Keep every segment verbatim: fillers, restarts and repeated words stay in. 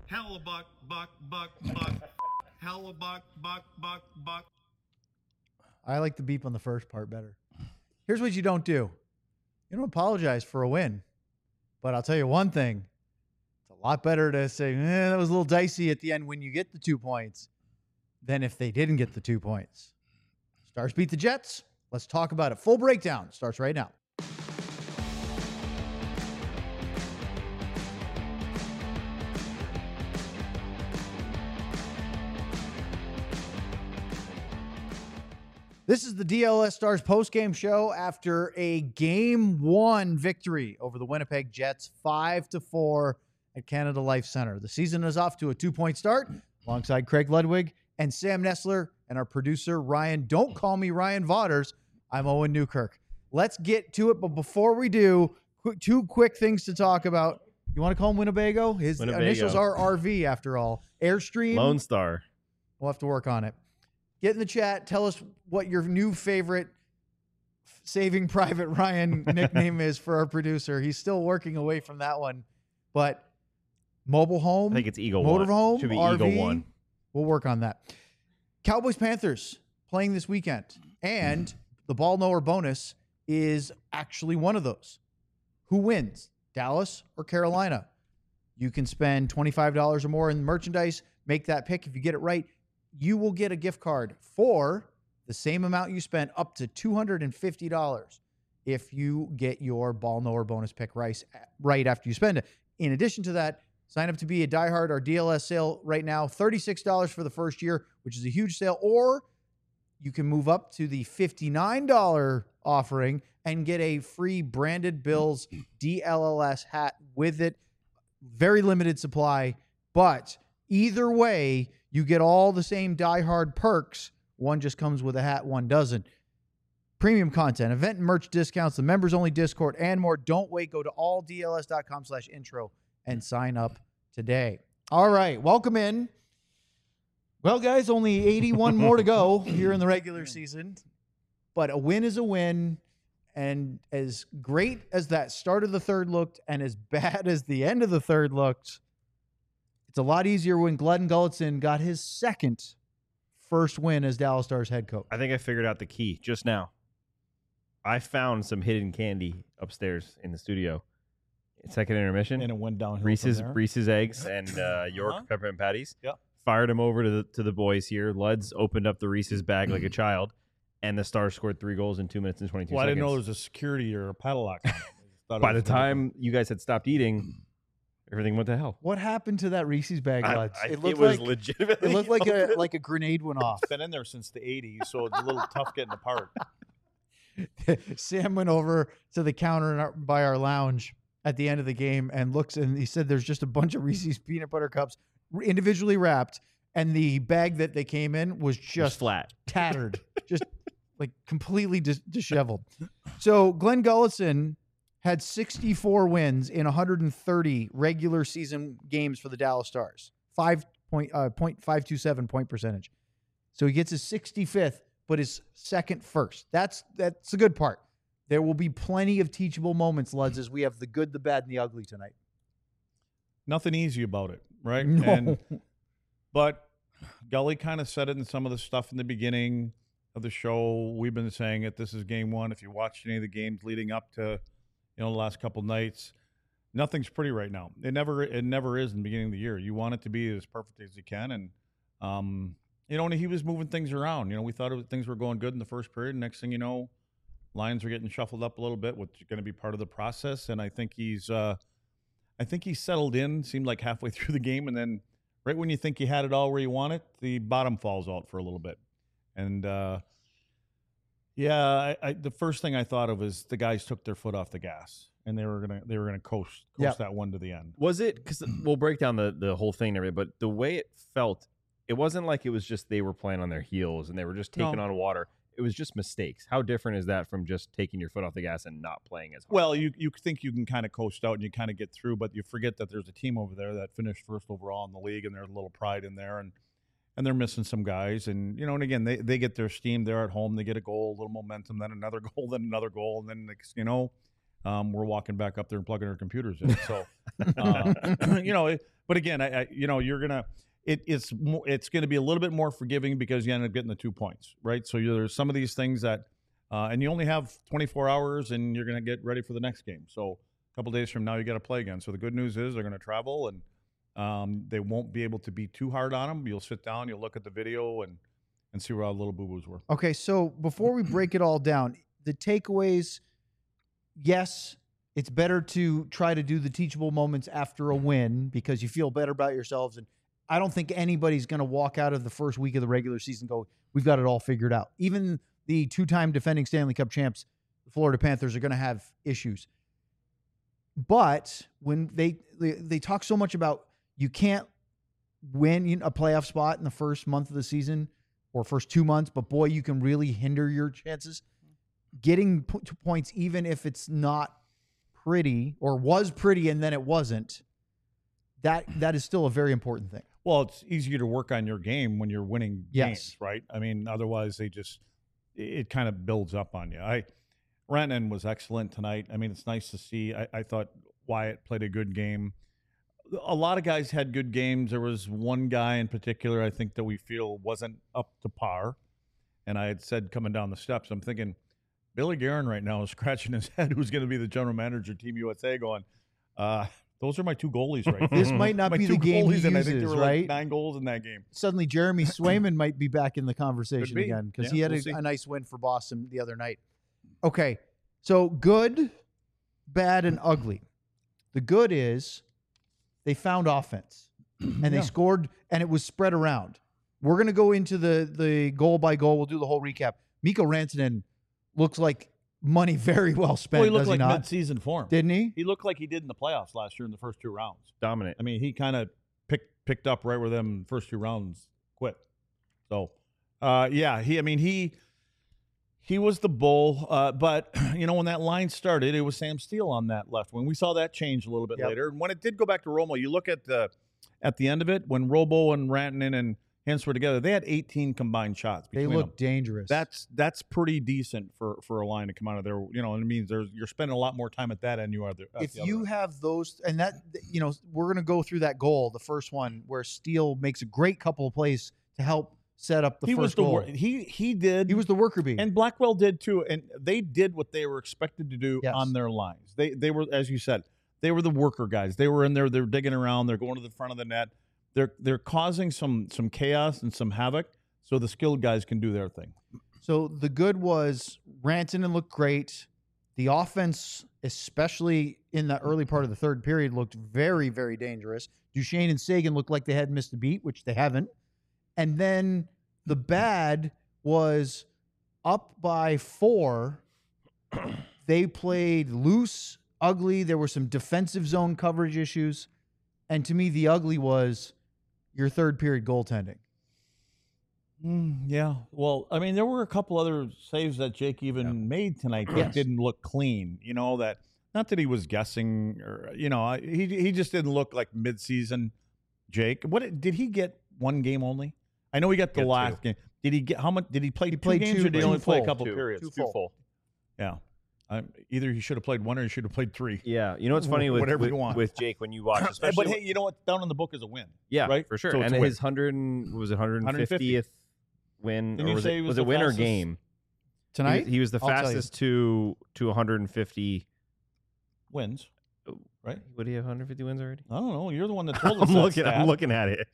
Hellebuck, buck, buck, buck. Hellebuck, buck, buck, buck. I like the beep on the first part better. Here's what you don't do. You don't apologize for a win. But I'll tell you one thing. It's a lot better to say, eh, that was a little dicey at the end when you get the two points than if they didn't get the two points. Stars beat the Jets. Let's talk about it. Full breakdown starts right now. This is the D L S Stars postgame show after a game one victory over the Winnipeg Jets, five to four at Canada Life Center. The season is off to a two-point start alongside Craig Ludwig and Sam Nestler and our producer, Ryan. Don't call me Ryan Vaughters. I'm Owen Newkirk. Let's get to it, but before we do, qu- two quick things to talk about. You want to call him Winnebago? His Winnebago. initials are R V, after all. Airstream. Lone Star. We'll have to work on it. Get in the chat. Tell us what your new favorite Saving Private Ryan nickname is for our producer. He's still working away from that one. But mobile home, I think it's Eagle motorhome, One. Should be R V, Eagle One. We'll work on that. Cowboys Panthers playing this weekend. And the ball knower bonus is actually one of those. Who wins, Dallas or Carolina? You can spend twenty-five dollars or more in merchandise. Make that pick. If you get it right, you will get a gift card for the same amount you spent, up to two hundred fifty dollars if you get your ball knower bonus pick right, right after you spend it. In addition to that, sign up to be a diehard. Our D L S sale right now, thirty-six dollars for the first year, which is a huge sale. Or you can move up to the fifty-nine dollars offering and get a free branded Bills D L L S hat with it. Very limited supply, but either way, you get all the same diehard perks. One just comes with a hat, one doesn't. Premium content, event and merch discounts, the members-only Discord, and more. Don't wait. Go to all D L S dot com slash intro and sign up today. All right, welcome in. Well, guys, only eighty-one more to go here in the regular season. But a win is a win. And as great as that start of the third looked and as bad as the end of the third looked, it's a lot easier when Glenn Gulutzan got his second first win as Dallas Stars head coach. I think I figured out the key just now. I found some hidden candy upstairs in the studio. Second intermission. And it went downhill. Reese's from there. Reese's eggs and uh, York Uh-huh. peppermint patties. Yep. Fired them over to the to the boys here. Luds opened up the Reese's bag like a child, and the Stars scored three goals in two minutes and twenty-two Well, I seconds. didn't know there was a security or a padlock. on it. I just thought it By the was- time you guys had stopped eating, everything went to hell. What happened to that Reese's bag, I- Luds? I- It looked was like legitimately. it looked like a open. like a grenade went off. It's been in there since the eighties, so it's a little tough getting apart. Sam went over to the counter in our, by our lounge at the end of the game and looks, and he said there's just a bunch of Reese's peanut butter cups individually wrapped, and the bag that they came in was Just just flat. tattered, just like completely dis- disheveled. So Glenn Gulutzan had sixty-four wins in one hundred thirty regular season games for the Dallas Stars, five point uh, point five two seven point percentage. So he gets his sixty-fifth, but his second first. That's that's the good part. There will be plenty of teachable moments, Luds, as we have the good, the bad, and the ugly tonight. Nothing easy about it, right? No. And, but Gully kind of said it in some of the stuff in the beginning of the show. We've been saying it. This is game one. If you watched any of the games leading up to, you know, the last couple nights, nothing's pretty right now. It never, it never is in the beginning of the year. You want it to be as perfect as you can, and um, you know, and he was moving things around. You know, we thought it was, things were going good in the first period. Next thing you know, lines are getting shuffled up a little bit, which is going to be part of the process. And I think he's, uh, I think he's settled in. Seemed like halfway through the game, and then right when you think you had it all where you want it, the bottom falls out for a little bit. And uh, yeah, I, I, the first thing I thought of is the guys took their foot off the gas, and they were gonna they were gonna coast coast Yep. that one to the end. Was it? Because we'll break down the, the whole thing and everything, but the way it felt, it wasn't like it was just they were playing on their heels and they were just taking No. on water. It was just mistakes. How different is that from just taking your foot off the gas and not playing as hard? Well, you you think you can kind of coast out and you kind of get through, but you forget that there's a team over there that finished first overall in the league, and there's a little pride in there, and and they're missing some guys, and you know, and again, they they get their steam. They're at home, they get a goal, a little momentum, then another goal, then another goal, and then next, you know, um, we're walking back up there and plugging our computers in. So, uh, you know, it, but again, I, I, you know, you're gonna, it, it's more, it's going to be a little bit more forgiving because you end up getting the two points, right? So you, there's some of these things that, uh, and you only have twenty-four hours, and you're going to get ready for the next game. So a couple days from now, you got to play again. So the good news is they're going to travel, and um, they won't be able to be too hard on them. You'll sit down, you'll look at the video, and and see where all the little boo boos were. Okay, so before we break it all down, the takeaways, yes, it's better to try to do the teachable moments after a win because you feel better about yourselves. And I don't think anybody's going to walk out of the first week of the regular season and go, we've got it all figured out. Even the two-time defending Stanley Cup champs, the Florida Panthers, are going to have issues. But when they, they they talk so much about you can't win a playoff spot in the first month of the season or first two months, but boy, you can really hinder your chances. Getting po- to points, even if it's not pretty or was pretty and then it wasn't, that that is still a very important thing. Well, it's easier to work on your game when you're winning Yes. games, right? I mean, otherwise they just, it, it kind of builds up on you. I, Rantanen was excellent tonight. I mean, it's nice to see. I, I thought Wyatt played a good game. A lot of guys had good games. There was one guy in particular, I think, that we feel wasn't up to par. And I had said coming down the steps, I'm thinking, Billy Guerin right now is scratching his head who's going to be the general manager of Team U S A going, uh, those are my two goalies right there. This might not my be two the game he goalies, and I think there uses, were right? like nine goals in that game. Suddenly, Jeremy Swayman might be back in the conversation be. again because Yeah, he had we'll a, see. a nice win for Boston the other night. Okay, so good, bad, and ugly. The good is they found offense and they Yeah. scored, and it was spread around. We're going to go into the the goal by goal. We'll do the whole recap. Mikko Rantanen looks like money very well spent. Well, he looked does like he not? mid-season form. Didn't he? He looked like he did in the playoffs last year in the first two rounds. Dominant. I mean, he kind of picked picked up right where them first two rounds quit. So, uh, yeah, he. I mean, he he was the bull. Uh, but you know, when that line started, it was Sam Steele on that left wing. We saw that change a little bit Yep. later. And when it did go back to Romo, you look at the at the end of it when Robo and Rantanen and Hintz were together. They had eighteen combined shots. They between look them. dangerous. That's that's pretty decent for for a line to come out of there. You know, and it means there's you're spending a lot more time at that end you are there. at if the other you end. have those, and that, you know, we're going to go through that goal, the first one where Steele makes a great couple of plays to help set up the he first was the goal. wor- he he did He was the worker bee. and Blackwell did too, and they did what they were expected to do Yes. on their lines. They they were, as you said, they were the worker guys. They were in there. They're digging around. They're going to the front of the net. They're they're causing some some chaos and some havoc, so the skilled guys can do their thing. So the good was Rantanen looked great. The offense, especially in the early part of the third period, looked very, very dangerous. Duchesne and Sagan looked like they hadn't missed a beat, which they haven't. And then the bad was up by four. They played loose, ugly. There were some defensive zone coverage issues. And to me, the ugly was your third period goaltending. Mm, yeah. Well, I mean, there were a couple other saves that Jake even made tonight that Yes. didn't look clean. You know, that not that he was guessing or, you know, I- he he just didn't look like midseason Jake. What did he get one game only? I know he got the Got last two. game. Did he get how much? Did he play He two played games two- or did he two only play a full. couple Two. periods? Two Too full. full. Yeah. Um, either he should have played one or he should have played three. Yeah, you know what's funny with Whatever with, you want. with Jake when you watch, But especially hey, you know what? Down in the book is a win. yeah, right? for sure. So it's and a win. his hundred was it hundred and fiftieth win, Didn't or you was say it he was was the it win or fastest? game? Tonight? he, he was the I'll tell you. fastest to to one hundred fifty. Wins. Right? Would he have one hundred fifty wins already? I don't know. You're the one that told us I'm that looking. stat. I'm looking at it.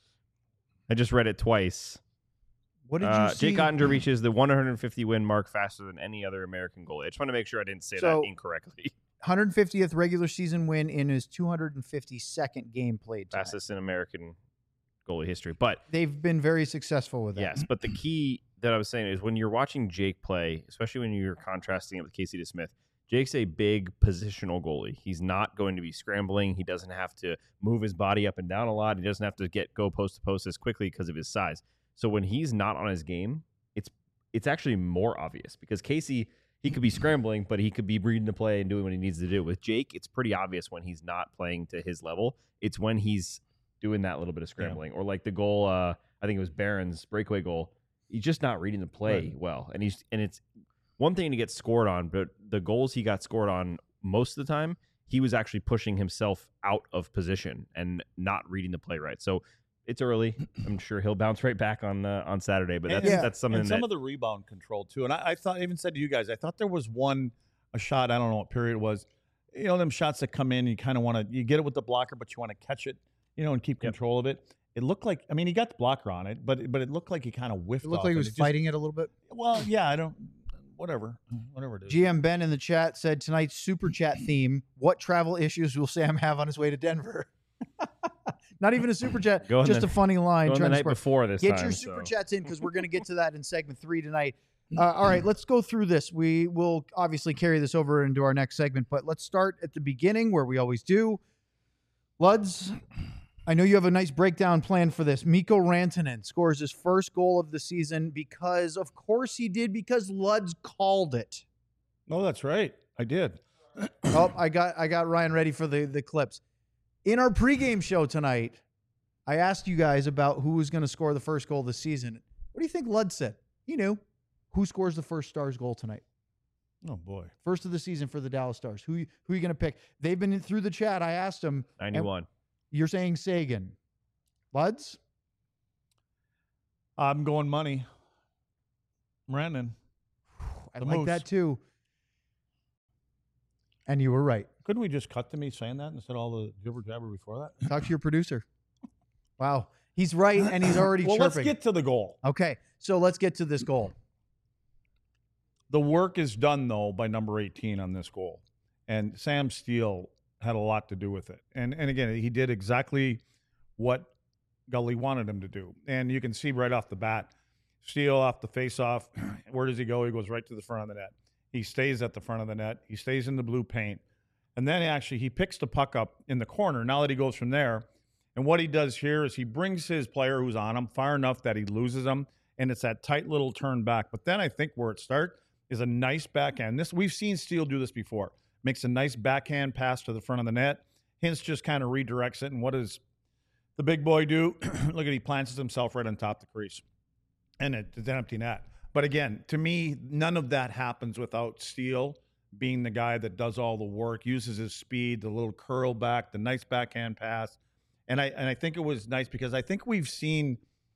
I just read it twice. What did you Uh, see? Jake Ottinger reaches the one hundred fifty win mark faster than any other American goalie. I just want to make sure I didn't say So- that incorrectly. one hundred fiftieth regular season win in his two hundred fifty-second game played tonight. Fastest in American goalie history. But They've been very successful with that. yes, but the key that I was saying is when you're watching Jake play, especially when you're contrasting it with Casey DeSmith, Jake's a big positional goalie. He's not going to be scrambling. He doesn't have to move his body up and down a lot. He doesn't have to get go post to post as quickly because of his size. So when he's not on his game, it's it's actually more obvious because Casey, he could be scrambling, but he could be reading the play and doing what he needs to do. With Jake, it's pretty obvious when he's not playing to his level. It's when he's doing that little bit of scrambling. Or like the goal, uh, I think it was Barron's breakaway goal. He's just not reading the play Right. well. And he's and it's one thing to get scored on, but the goals he got scored on most of the time, he was actually pushing himself out of position and not reading the play right. So it's early. I'm sure he'll bounce right back on uh, on Saturday, but that's Yeah. that's something and some that of the rebound control too. And I, I thought, I even said to you guys, I thought there was one a shot. I don't know what period it was. You know, them shots that come in, you kind of want to you get it with the blocker, but you want to catch it, you know, and keep Yep. control of it. It looked like, I mean, he got the blocker on it, but but it looked like he kind of whiffed. It looked off like he it. was It just- fighting it a little bit. Well, yeah, I don't. Whatever, whatever it is. G M Ben in the chat said tonight's super chat theme: what travel issues will Sam have on his way to Denver? Not even a super chat, Go on just the- a funny line. Going the trying to night spark- before this Get time. your super so. chats in because we're going to get to that in segment three tonight. Uh, all right, let's go through this. We will obviously carry this over into our next segment, but let's start at the beginning where we always do. Luds, I know you have a nice breakdown plan for this. Mikko Rantanen scores his first goal of the season because, of course, he did because Luds called it. No, that's right. I did. Oh, I got I got Ryan ready for the, the clips. In our pregame show tonight, I asked you guys about who was going to score the first goal of the season. What do you think Lud said? He knew. Who scores the first Stars goal tonight? Oh boy. First of the season for the Dallas Stars. Who who are you going to pick? They've been in, through the chat. I asked them. ninety-one. You're saying Sagan. Luds? I'm going money. Brandon. I The like Moose. that too. And you were right. Couldn't we just cut to me saying that instead of all the jibber jabber before that? Talk to your producer. Wow. He's right, and he's already well, chirping. let's get to the goal. Okay, so let's get to this goal. The work is done, though, by number eighteen on this goal. And Sam Steele had a lot to do with it. And and again, he did exactly what Gully wanted him to do. And you can see right off the bat, Steele off the face-off. Where does he go? He goes right to the front of the net. He stays at the front of the net. He stays in the blue paint. And then actually he picks the puck up in the corner now that he goes from there. And what he does here is he brings his player who's on him far enough that he loses him. And it's that tight little turn back. But then I think where it starts is a nice backhand. This we've seen Steele do this before. Makes a nice backhand pass to the front of the net. Hintz just kind of redirects it. And what does the big boy do? Look at he plants himself right on top of the crease. And it, it's an empty net. But again, to me, none of that happens without Steele being the guy that does all the work, uses his speed, the little curl back, the nice backhand pass. And I and I think it was nice because I think we've seen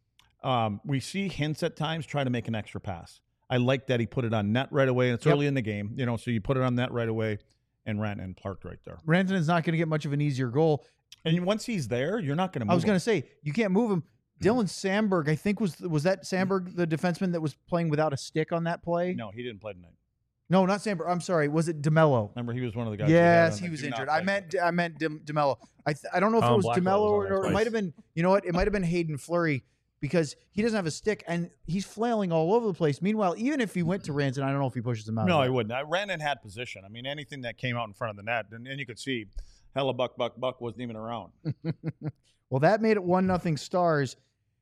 um, we see Hintz at times try to make an extra pass. I like that he put it on net right away, and it's Yep. early in the game, you know, so you put it on net right away and ran and parked right there. Rantanen's not going to get much of an easier goal. And once he's there, you're not going to move I was going him. to say, you can't move him. Dylan Sandberg, I think, was was that Sandberg, the defenseman that was playing without a stick on that play? No, he didn't play tonight. No, not Sandberg. I'm sorry. Was it DeMello? Remember, he was one of the guys. we had Yes, on he that was do not injured. I play. meant I meant Dem- DeMello. I th- I don't know if it Colin was Blackwell DeMello was on or, there or it twice. might have been. You know what? It might have been Hayden Fleury because he doesn't have a stick and he's flailing all over the place. Meanwhile, even if he went to Ranson, I don't know if he pushes him out. No, of he there. wouldn't. I ran and had position. I mean, anything that came out in front of the net, and, and you could see, hella buck, buck, buck wasn't even around. Well, that made it one nothing Stars.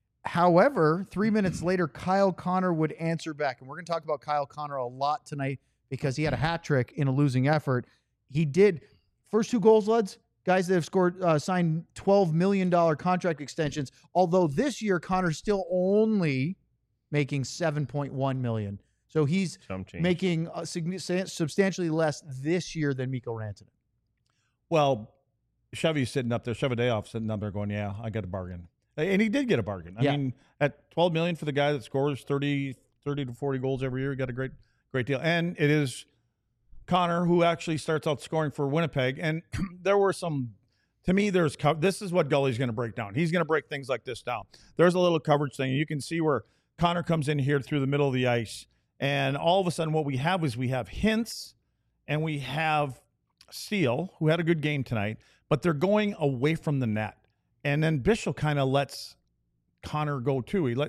However, three minutes later, Kyle Connor would answer back, and we're going to talk about Kyle Connor a lot tonight because he had a hat trick in a losing effort. He did first two goals, Luds, guys that have scored uh, signed twelve million dollars contract extensions. Although this year Connor's still only making seven point one million dollars, so he's Some change. making uh, signi- substantially less this year than Mikko Rantanen. Well, Chevy's sitting up there, Chevadeoff sitting up there going, yeah, I got a bargain. And he did get a bargain. I Yeah. mean, at twelve million dollars for the guy that scores thirty, thirty to forty goals every year, he got a great, great deal. And it is Connor who actually starts out scoring for Winnipeg. And there were some, to me, there's, co- this is what Gully's going to break down. He's going to break things like this down. There's a little coverage thing. You can see where Connor comes in here through the middle of the ice. And all of a sudden what we have is we have Hintz and we have Steele, who had a good game tonight, but they're going away from the net. And then Bishop kind of lets Connor go too. He let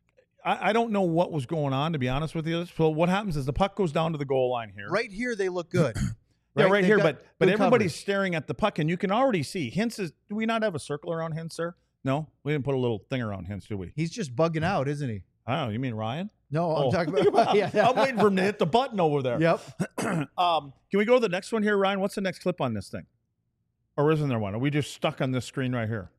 I, I don't know what was going on, to be honest with you. So what happens is the puck goes down to the goal line here. Right here, they look good. Yeah, right They've here, got but but good everybody's coverage. staring at the puck, and you can already see Hintz is. Do we not have a circle around Hintz, sir? No, we didn't put a little thing around Hintz, do we? He's just bugging out, isn't he? I don't know. You mean Ryan? No, I'm Oh. talking about. Yeah, I'm waiting for him to hit the button over there. Yep. um, can we go to the next one here, Ryan? What's the next clip on this thing? Or isn't there one? Are we just stuck on this screen right here?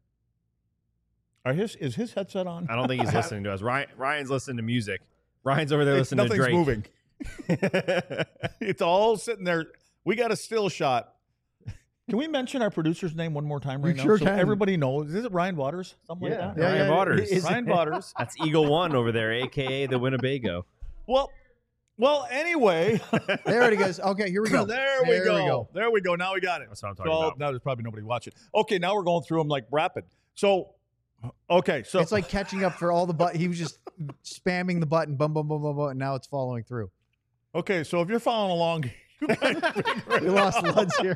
Are his is his headset on? I don't think he's listening to us. Ryan, Ryan's listening to music. Ryan's over there It's- listening to nothing's Drake. moving. It's all sitting there We got a still shot. Can we mention our producer's name one more time right You now? sure so can. everybody knows. Is it Ryan Waters? Something Yeah. like that? Yeah, Ryan yeah, Waters. is- Ryan Waters. That's Eagle One over there, a k a the Winnebago. Well, well. Anyway, There it goes. Okay, here we go. there, we, There go. we go. There we go. Now we got it. That's what I'm talking So about. now there's probably nobody watching. Okay, now we're going through them like rapid. So, okay, so It's like catching up for all the but. He was just spamming the button, bum bum bum bum bum, and now it's following through. okay, so if you're following along, you guys We lost Luds here.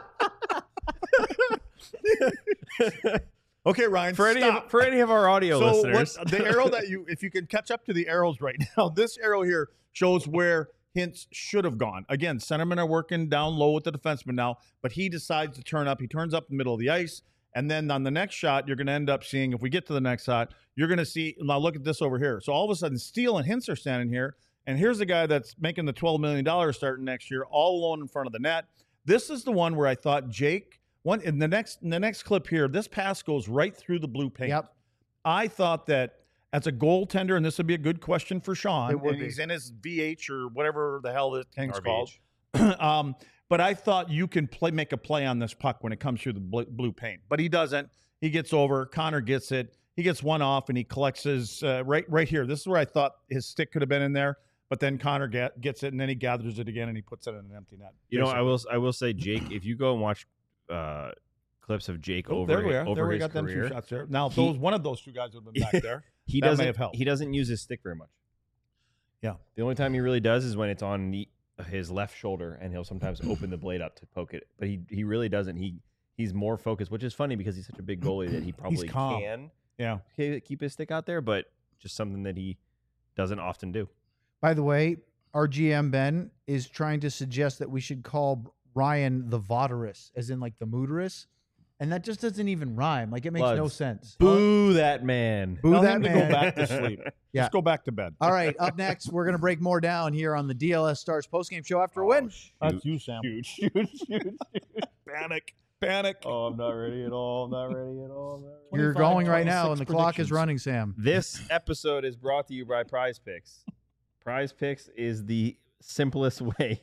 okay, Ryan. For any, stop. of, for any of our audio so listeners, what, the arrow that you, if you can catch up to the arrows right now, this arrow here shows where Hintz should have gone. Again, centermen are working down low with the defenseman now, but he decides to turn up. He turns up in the middle of the ice. And then on the next shot, you're going to end up seeing, if we get to the next shot, you're going to see, now look at this over here. So all of a sudden, Steele and Hintz are standing here. And here's the guy that's making the twelve million dollars starting next year, all alone in front of the net. This is the one where I thought Jake, one in the next in the next clip here, this pass goes right through the blue paint. Yep. I thought that as a goaltender, and this would be a good question for Sean, It would and be. he's in his V H or whatever the hell this thing's R V called. H. um, but I thought you can play, make a play on this puck when it comes through the bl- blue paint. But he doesn't. He gets over. Connor gets it. He gets one off, and he collects his uh, right right here. This is where I thought his stick could have been in there. But then Connor get, gets it, and then he gathers it again, and he puts it in an empty net. you know, I basically. will I will say, Jake, if you go and watch uh, clips of Jake Oh, over there we are. over There we his got them two career, shots there. Now, He- those one of those two guys would have been back there. he That may doesn't have helped. he doesn't use his stick very much. Yeah. The only time he really does is when it's on the, his left shoulder, and he'll sometimes open the blade up to poke it. But he he really doesn't. He he's more focused, which is funny because he's such a big goalie that he probably calm. can Yeah. ke- keep his stick out there, but just something that he doesn't often do. By the way, our G M Ben is trying to suggest that we should call Ryan the Voderus, as in like the mooderus, and that just doesn't even rhyme. Like it makes no Luds. sense. Boo that man. Boo Tell that him to man. go back to sleep. Yeah. Just go back to bed. All right, up next, we're gonna break more down here on the D L S Stars postgame show after a win. That's you, Sam. Shoot, shoot, shoot. Panic. Panic. Oh, I'm not ready at all. I'm not ready at all. I'm not ready. You're twenty-five, going right now, and the twenty-six clock is predictions. running, Sam. This episode is brought to you by Prize Picks. Prize Picks is the simplest way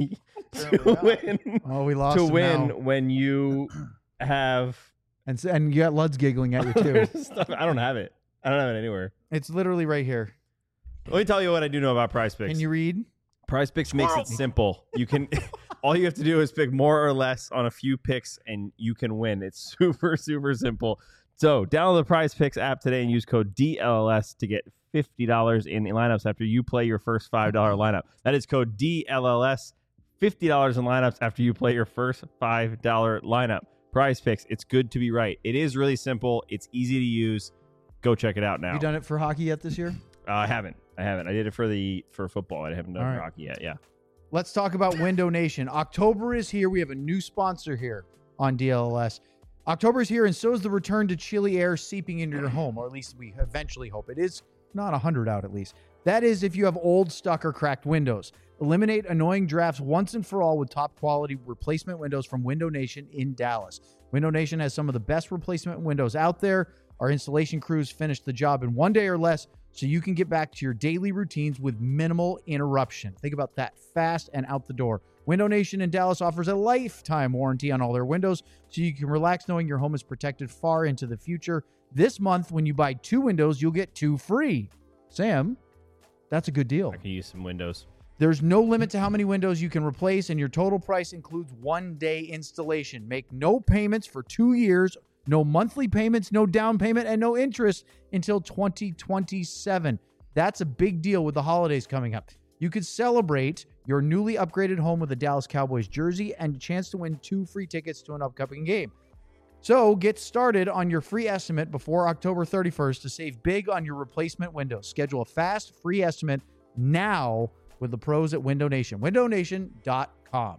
to win. Oh, we lost To him win now. when you have and s- and you got Luds giggling at you too. stuff. I don't have it. I don't have it anywhere. It's literally right here. Let me tell you what I do know about Prize Picks. Can you read? Prize Picks makes it simple. You can all you have to do is pick more or less on a few picks and you can win. It's super super simple. So, download the Prize Picks app today and use code D L L S to get fifty dollars in lineups after you play your first five dollar lineup. That is code D L L S, fifty dollars in lineups after you play your first five dollar lineup. Prize Picks, it's good to be right. It is really simple. It's easy to use. Go check it out now. You done it for hockey yet this year? Uh, I haven't. I haven't. I did it for the for football. I haven't done All it for right. hockey yet. Yeah. Let's talk about Window Nation. October is here. We have a new sponsor here on D L L S. October is here, and so is the return to chilly air seeping into your home, or at least we eventually hope. It is not one hundred out, at least. That is if you have old, stuck, or cracked windows. Eliminate annoying drafts once and for all with top-quality replacement windows from Window Nation in Dallas. Window Nation has some of the best replacement windows out there. Our installation crews finish the job in one day or less, so you can get back to your daily routines with minimal interruption. Think about that, fast and out the door. Window Nation in Dallas offers a lifetime warranty on all their windows, so you can relax knowing your home is protected far into the future. This month, when you buy two windows, you'll get two free. Sam, that's a good deal. I can use some windows. There's no limit to how many windows you can replace, and your total price includes one day installation. Make no payments for two years, no monthly payments, no down payment, and no interest until twenty twenty-seven. That's a big deal with the holidays coming up. You could celebrate your newly upgraded home with a Dallas Cowboys jersey and a chance to win two free tickets to an upcoming game. So get started on your free estimate before October thirty-first to save big on your replacement windows. Schedule a fast, free estimate now with the pros at Window Nation. window nation dot com.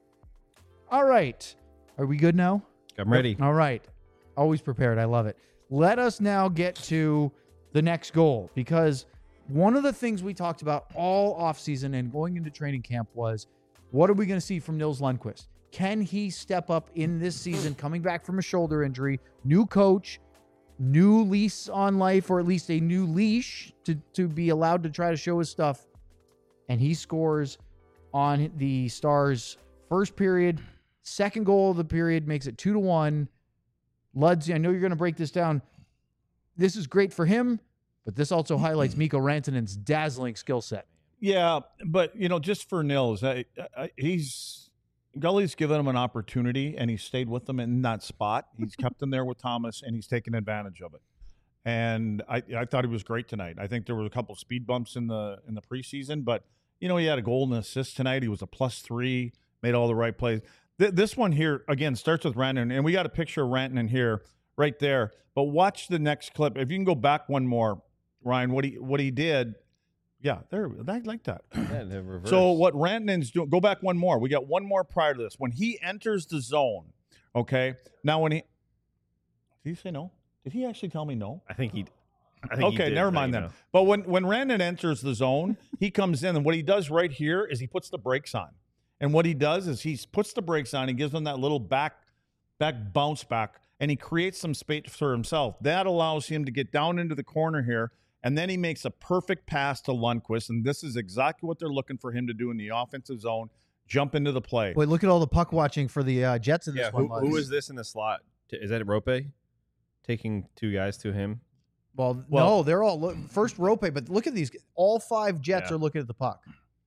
All right. Are we good now? I'm ready. All right. Always prepared. I love it. Let us now get to the next goal, because one of the things we talked about all offseason and going into training camp was, what are we going to see from Nils Lundqvist? Can he step up in this season, coming back from a shoulder injury, new coach, new lease on life, or at least a new leash to, to be allowed to try to show his stuff? And he scores on the Stars' First period, second goal of the period makes it two to one. Luds, I know you're going to break this down. This is great for him, but this also highlights Mikko Rantanen's dazzling skill set. Yeah, but you know, just for Nils, I, I, he's Gully's given him an opportunity, and he stayed with them in that spot. He's kept him there with Thomas, and he's taken advantage of it. And I, I thought he was great tonight. I think there was a couple of speed bumps in the in the preseason, but you know, he had a goal and an assist tonight. He was a plus three, made all the right plays. Th- this one here again starts with Rantanen, and we got a picture of Rantanen here, right there. But watch the next clip. If you can go back one more, Ryan, what he what he did. Yeah, there. I like that. Yeah, the reverse. So what Rantanen's doing? Go back one more. We got one more prior to this. When he enters the zone, okay. Now when he did he say no? Did he actually tell me no? I think he. I think he Okay, did never tell mind you then. no. But when when Rantanen enters the zone, he comes in, and what he does right here is he puts the brakes on. And what he does is he puts the brakes on. He gives them that little back back bounce back, and he creates some space for himself. That allows him to get down into the corner here, and then he makes a perfect pass to Lundqvist, and this is exactly what they're looking for him to do in the offensive zone, jump into the play. Wait, look at all the puck watching for the uh, Jets in this Yeah, one. who, who Luds. is this in the slot? T- Is that Rope taking two guys to him? Well, Well- no, they're all look, first Rope, but look at these. All five Jets Yeah. are looking at the puck.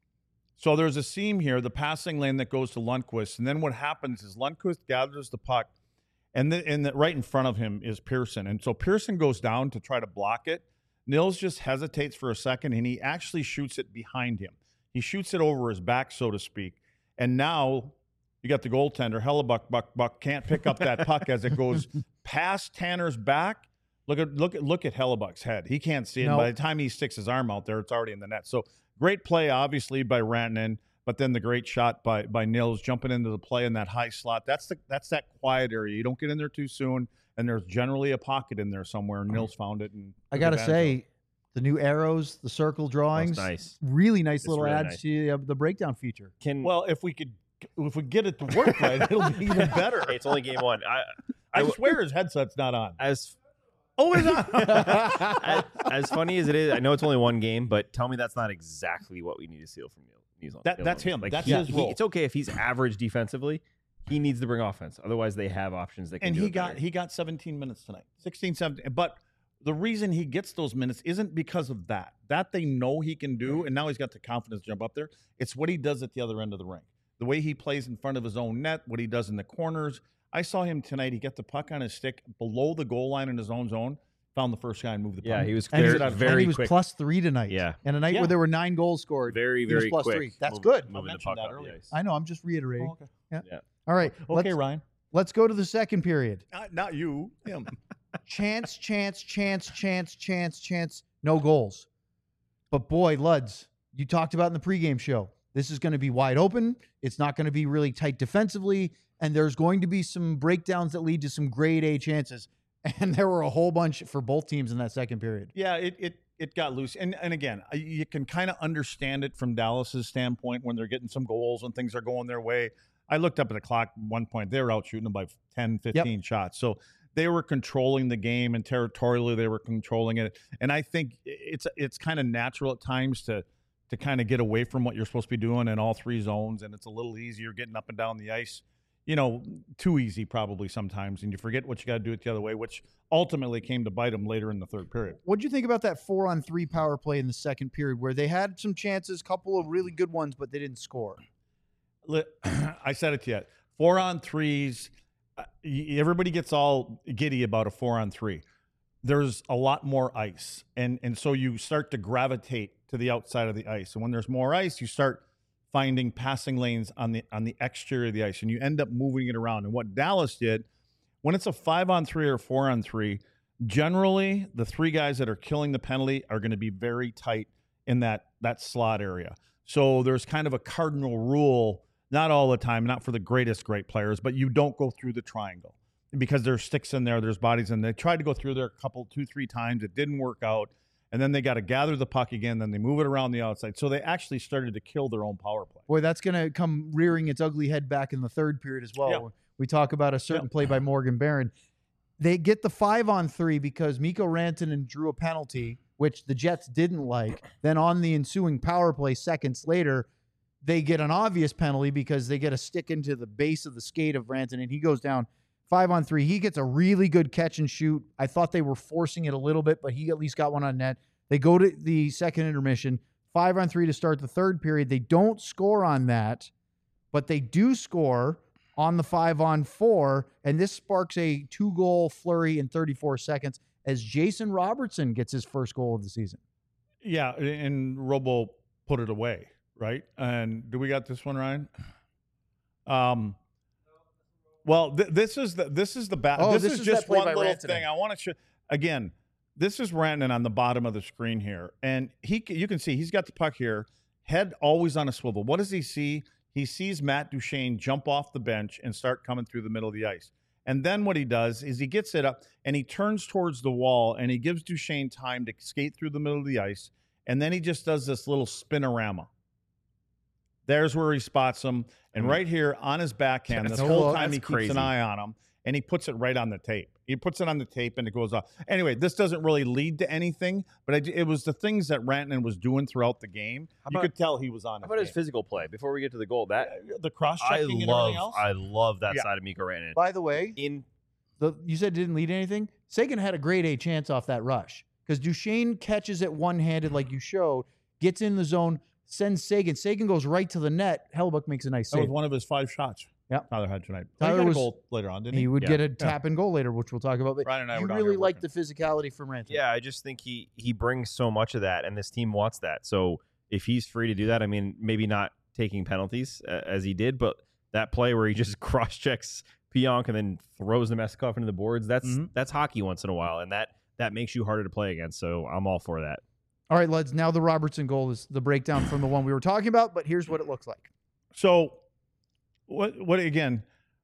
So there's a seam here, the passing lane that goes to Lundqvist, and then what happens is Lundqvist gathers the puck, and the, and the, right in front of him is Pearson, and so Pearson goes down to try to block it. Nils just hesitates for a second, and he actually shoots it behind him. He shoots it over his back, so to speak, and now you got the goaltender Hellebuck Buck Buck can't pick up that puck as it goes past Tanner's back. Look at look at look at Hellebuck's head. He can't see it. No. By the time he sticks his arm out there, it's already in the net. So great play, obviously, by Rantanen, but then the great shot by by Nils jumping into the play in that high slot. That's the that's that quiet area. You don't get in there too soon, and there's generally a pocket in there somewhere. And Nils found it. And I took got to advantage of it. say, the new arrows, the circle drawings, nice. really nice It's little really adds nice. to uh, the breakdown feature. Can Well, if we could, if we get it to work right, it'll be even better. Hey, it's only game one. I, I I swear his headset's not on. as Oh, it's on. as, as funny as it is, I know it's only one game, but tell me that's not exactly what we need to steal from New New Zealand. That- New that's Zealand. him. That's he- his he- role. It's okay if he's average defensively. He needs to bring offense. Otherwise, they have options that can and do he it got better. he got seventeen minutes tonight, sixteen, seventeen. But the reason he gets those minutes isn't because of that. That they know he can do, and now he's got the confidence to jump up there. It's what he does at the other end of the rink. The way he plays in front of his own net, what he does in the corners. I saw him tonight. He got the puck on his stick below the goal line in his own zone, found the first guy and moved the puck. Yeah, he was And very, he, very and he was quick. plus three tonight. Yeah. And a night Yeah. where there were nine goals scored. very, he was very plus quick. three. That's move- good. I Moving the mentioned puck that up the earlier. ice. I know. I'm just reiterating. Oh, okay. Yeah. All right. Okay, let's, Ryan. let's go to the second period. Not, not you, him. Chance, chance, chance, chance, chance, chance. No goals. But boy, Luds, you talked about in the pregame show. This is going to be wide open. It's not going to be really tight defensively. And there's going to be some breakdowns that lead to some grade A chances. And there were a whole bunch for both teams in that second period. Yeah, it it it got loose, and and again, I- you can kind of understand it from Dallas's standpoint when they're getting some goals and things are going their way. I looked up at the clock at one point; they were out shooting them by ten, fifteen shots, so they were controlling the game, and territorially they were controlling it. And I think it's it's kind of natural at times to to kind of get away from what you're supposed to be doing in all three zones, and it's a little easier getting up and down the ice. You know, too easy probably sometimes, and you forget what you got to do it the other way, which ultimately came to bite them later in the third period. What do you think about that four on three power play in the second period where they had some chances, couple of really good ones, but they didn't score? Li- I said it to you. Four on threes. uh, y- Everybody gets all giddy about a four on three. There's a lot more ice, and and so you start to gravitate to the outside of the ice. And when there's more ice, you start finding passing lanes on the on the exterior of the ice, and you end up moving it around. And what Dallas did, when it's a five on three or four on three, generally the three guys that are killing the penalty are going to be very tight in that that slot area. So there's kind of a cardinal rule, not all the time, not for the greatest great players, but you don't go through the triangle because there's sticks in there, there's bodies in there. They tried to go through there a couple, two, three times. It didn't work out. And then they got to gather the puck again. Then they move it around the outside. So they actually started to kill their own power play. Boy, that's going to come rearing its ugly head back in the third period as well. Yeah. We talk about a certain Yeah. play by Morgan Barron. They get the five on three because Mikko Rantanen drew a penalty, which the Jets didn't like. Then on the ensuing power play seconds later, they get an obvious penalty because they get a stick into the base of the skate of Rantanen, and he goes down five on three. He gets a really good catch and shoot. I thought they were forcing it a little bit, but he at least got one on net. They go to the second intermission, five on three to start the third period. They don't score on that, but they do score on the five on four, and this sparks a two-goal flurry in thirty-four seconds as Jason Robertson gets his first goal of the season. Yeah, and Robo put it away, right? And do we got this one, Ryan? Um. Well, th- this is the this is the bat. Oh, this, this is, is just that play one by little Rantanen. thing. I want to show again. This is Rantanen on the bottom of the screen here, and he c- you can see he's got the puck here, head always on a swivel. What does he see? He sees Matt Duchene jump off the bench and start coming through the middle of the ice. And then what he does is he gets it up and he turns towards the wall and he gives Duchene time to skate through the middle of the ice. And then he just does this little spinorama. There's where he spots him. And right here on his backhand, this No whole look. time he That's keeps crazy. an eye on him and he puts it right on the tape. He puts it on the tape and it goes off. Anyway, this doesn't really lead to anything, but I, it was the things that Rantanen was doing throughout the game. How You about- could tell he was on How his about his game. physical play before we get to the goal? That The cross I checking and love. everything else. I love that Yeah. side of Mikko Rantanen. By the way, In the, you said it didn't lead anything. Sagan had a grade A chance off that rush because Duchene catches it one-handed like you showed, gets in the zone, sends Sagan. Sagan goes right to the net. Hellebuck makes a nice That was save. one of his five shots. Yep. Tyler had tonight. Tyler he got was- a goal later on, didn't he? He would Yeah. get a tap and goal later, which we'll talk about. But Ryan and I you were down really here like the working. physicality from Rantanen. yeah, I just think he he brings so much of that, and this team wants that. So if he's free to do that, I mean, maybe not taking penalties uh, as he did, but that play where he just cross checks Pionk and then throws the Nemestikov into the boards, that's Mhm. that's hockey once in a while, and that that makes you harder to play against. So I'm all for that. All right, lads. Now the Robertson goal is the breakdown from the one we were talking about, but here's what it looks like. So, what? What again?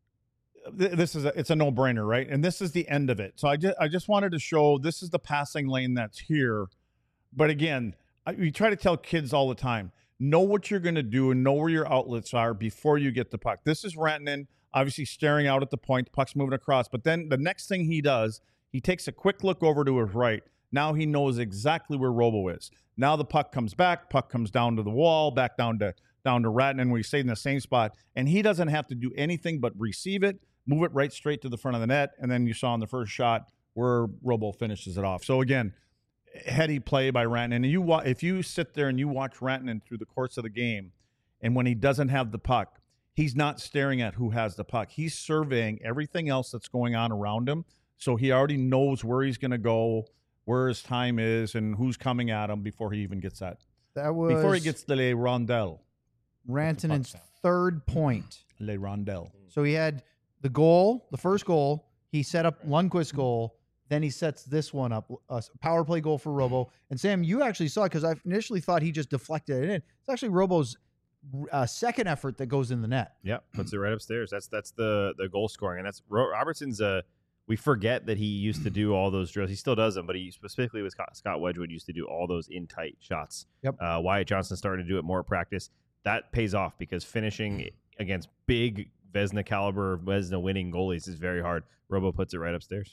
th- This is a, it's a no brainer, right? And this is the end of it. So I just I just wanted to show this is the passing lane that's here. But again, I, we try to tell kids all the time: know what you're going to do and know where your outlets are before you get the puck. This is Rantanen obviously staring out at the point. The puck's moving across, but then the next thing he does, he takes a quick look over to his right. Now he knows exactly where Robo is. Now the puck comes back, puck comes down to the wall, back down to down to Rantanen, where he stayed in the same spot, and he doesn't have to do anything but receive it, move it right straight to the front of the net, and then you saw in the first shot where Robo finishes it off. So again, heady play by Rantanen. And you wa- if you sit there and you watch Rantanen through the course of the game, and when he doesn't have the puck, he's not staring at who has the puck. He's surveying everything else that's going on around him. So he already knows where he's going to go, where his time is, and who's coming at him before he even gets that. That was Before he gets the le rondelle. Rantanen's sound. third point. Le rondelle. So he had the goal, the first goal. He set up Lundqvist's goal. Then he sets this one up, a power play goal for Robo. And Sam, you actually saw it because I initially thought he just deflected it in. It's actually Robo's uh, second effort that goes in the net. Yeah, puts it right upstairs. That's that's the the goal scoring, and that's Ro- Robertson's. Uh, we forget that he used to do all those drills. He still does them, but he specifically with Scott, Scott Wedgwood used to do all those in tight shots. Yep. Uh, Wyatt Johnson started to do it more at practice. That pays off because finishing against big Vezina caliber, Vezina winning goalies is very hard. Robo puts it right upstairs.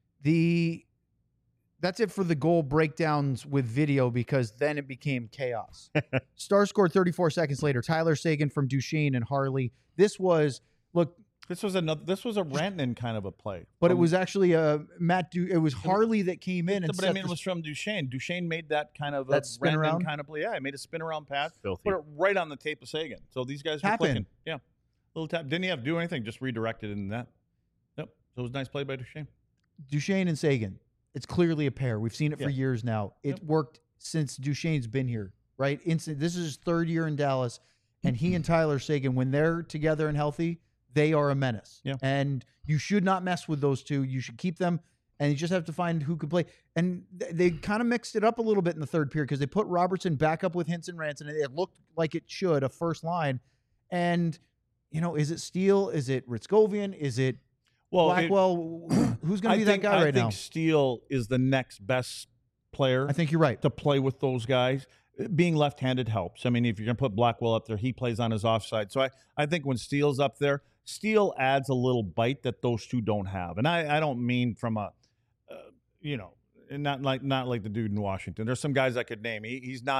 The that's it for the goal breakdowns with video because then it became chaos. Star scored thirty-four seconds later. Tyler Sagan from Duchene and Harley. This was look, This was another. This was a Rantanen kind of a play. but it From- was actually uh, Matt. Du- it was Harley that came in and But I set mean, the- it was from Duchene. Duchene made that kind of a That spin Rantanen around? kind of play. Yeah, he made a spin around pass. Filthy. Put it right on the tape of Sagan. So these guys were Tap in. clicking. Yeah, little tap. Didn't he have to do anything? Just redirected in that. Yep. So it was a nice play by Duchene. Duchene and Sagan. It's clearly a pair. We've seen it for Yeah. years now. It Yep. worked since Duchene's been here, right? Instant. This is his third year in Dallas, and he and Tyler Sagan, when they're together and healthy, they are a menace. Yeah. And you should not mess with those two. You should keep them, and you just have to find who can play. And th- they kind of mixed it up a little bit in the third period because they put Robertson back up with Hinson Ranson, and it looked like it should, a first line. And, you know, is it Steele? Is it Ritzkovian? Is it Well, it- Blackwell? Who- Who's going I to be think, that guy I right think now? Steele is the next best player I think you're right. to play with those guys. Being left-handed helps. I mean, if you're going to put Blackwell up there, he plays on his offside. So I, I think when Steele's up there, Steele adds a little bite that those two don't have. And I, I don't mean from a, uh, you know, not like not like the dude in Washington. There's some guys I could name. He, he's not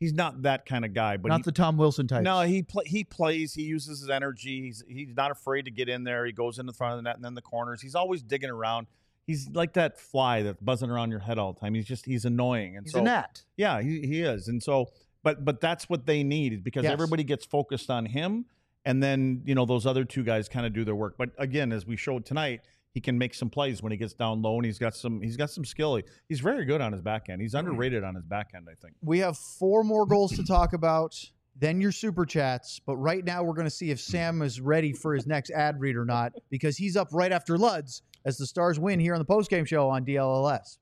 he's not that kind of guy. But Not he, the Tom Wilson type. no, he play, he plays. He uses his energy. He's he's not afraid to get in there. He goes in the front of the net and then the corners. He's always digging around. He's like that fly that's buzzing around your head all the time. He's just he's annoying. And He's so a gnat. yeah, he, he is. And so, but but that's what they need because Yes. everybody gets focused on him, and then you know those other two guys kind of do their work. But again, as we showed tonight, he can make some plays when he gets down low, and he's got some he's got some skill. He's very good on his back end. He's underrated on his back end, I think. We have four more goals to talk about, then your super chats. But right now, we're going to see if Sam is ready for his next ad read or not, because he's up right after Luds as the Stars win here on the postgame show on D L L S.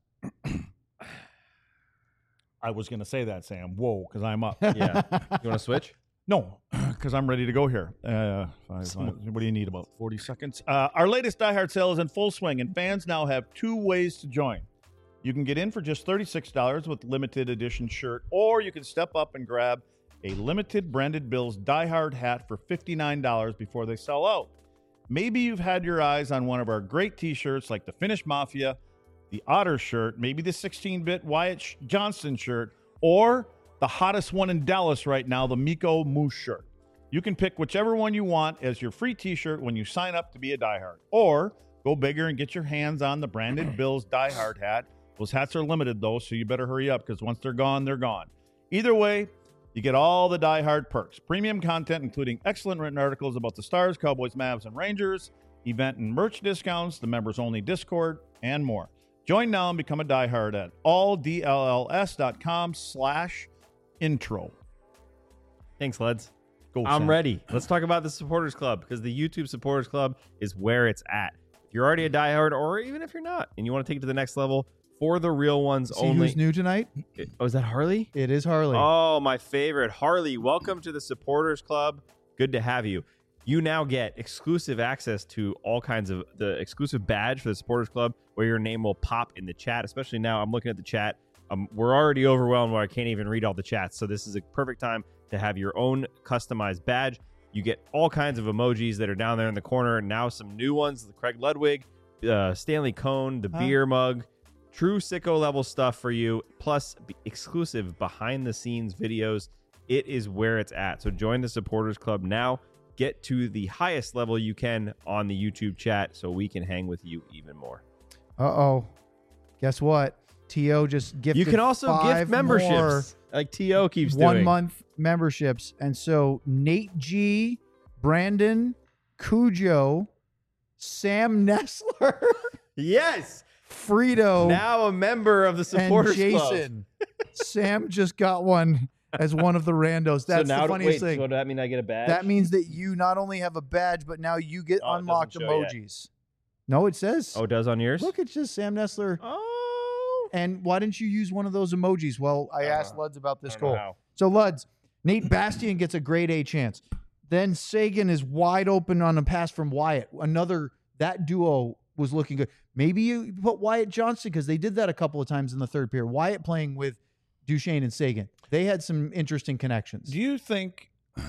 I was going to say that, Sam. Whoa, because I'm up. Yeah. You want to switch? No, because I'm ready to go here. Uh, five, five, what do you need? About forty seconds. Uh, our latest Die Hard sale is in full swing, and fans now have two ways to join. You can get in for just thirty-six dollars with limited edition shirt, or you can step up and grab a limited branded Bills Die Hard hat for fifty-nine dollars before they sell out. Maybe you've had your eyes on one of our great t-shirts like the Finnish Mafia, the Otter shirt, maybe the sixteen-bit Wyatt Johnston shirt, or the hottest one in Dallas right now, the Miko Moose shirt. You can pick whichever one you want as your free t-shirt when you sign up to be a diehard. Or go bigger and get your hands on the branded Bills diehard hat. Those hats are limited, though, so you better hurry up because once they're gone, they're gone. Either way, you get all the diehard perks. Premium content, including excellent written articles about the Stars, Cowboys, Mavs, and Rangers, event and merch discounts, the members-only Discord, and more. Join now and become a diehard at alldls.com slash intro. Thanks, Leds. Go, I'm Sam. ready. Let's talk about the Supporters Club because the YouTube Supporters Club is where it's at. If you're already a diehard, or even if you're not, and you want to take it to the next level, for the real ones See only. who's new tonight? Oh, is that Harley? It is Harley. Oh, my favorite. Harley, welcome to the Supporters Club. Good to have you. You now get exclusive access to all kinds of the exclusive badge for the Supporters Club where your name will pop in the chat, especially now. I'm looking at the chat. Um, we're already overwhelmed where I can't even read all the chats. So this is a perfect time to have your own customized badge. You get all kinds of emojis that are down there in the corner. And now some new ones, the Craig Ludwig, uh, Stanley Cone, the Huh? beer mug. True sicko level stuff for you, plus b- exclusive behind the scenes videos. It is where it's at. So join the Supporters Club now. Get to the highest level you can on the YouTube chat so we can hang with you even more. Uh-oh. Guess what? T O just gifted You can also five gift memberships more like T O keeps one doing. month memberships. And so Nate G, Brandon, Cujo, Sam Nessler, Yes. Frito, Now a member of the and Supporters Club. Jason. Sam just got one as one of the randos. That's so now the funniest wait, thing. So does that mean I get a badge? That means that you not only have a badge, but now you get Oh, it unlocked doesn't show yet. emojis. No, it says. Oh, it does on yours? Look, it's just Sam Nessler. Oh. And why didn't you use one of those emojis? Well, I I don't asked know. Luds about I this don't know goal. how. So, Luds, Nate Bastian gets a grade A chance. Then Sagan is wide open on a pass from Wyatt. Another, that duo was looking good. Maybe you put Wyatt Johnston because they did that a couple of times in the third period. Wyatt playing with Duchesne and Sagan. They had some interesting connections. Do you think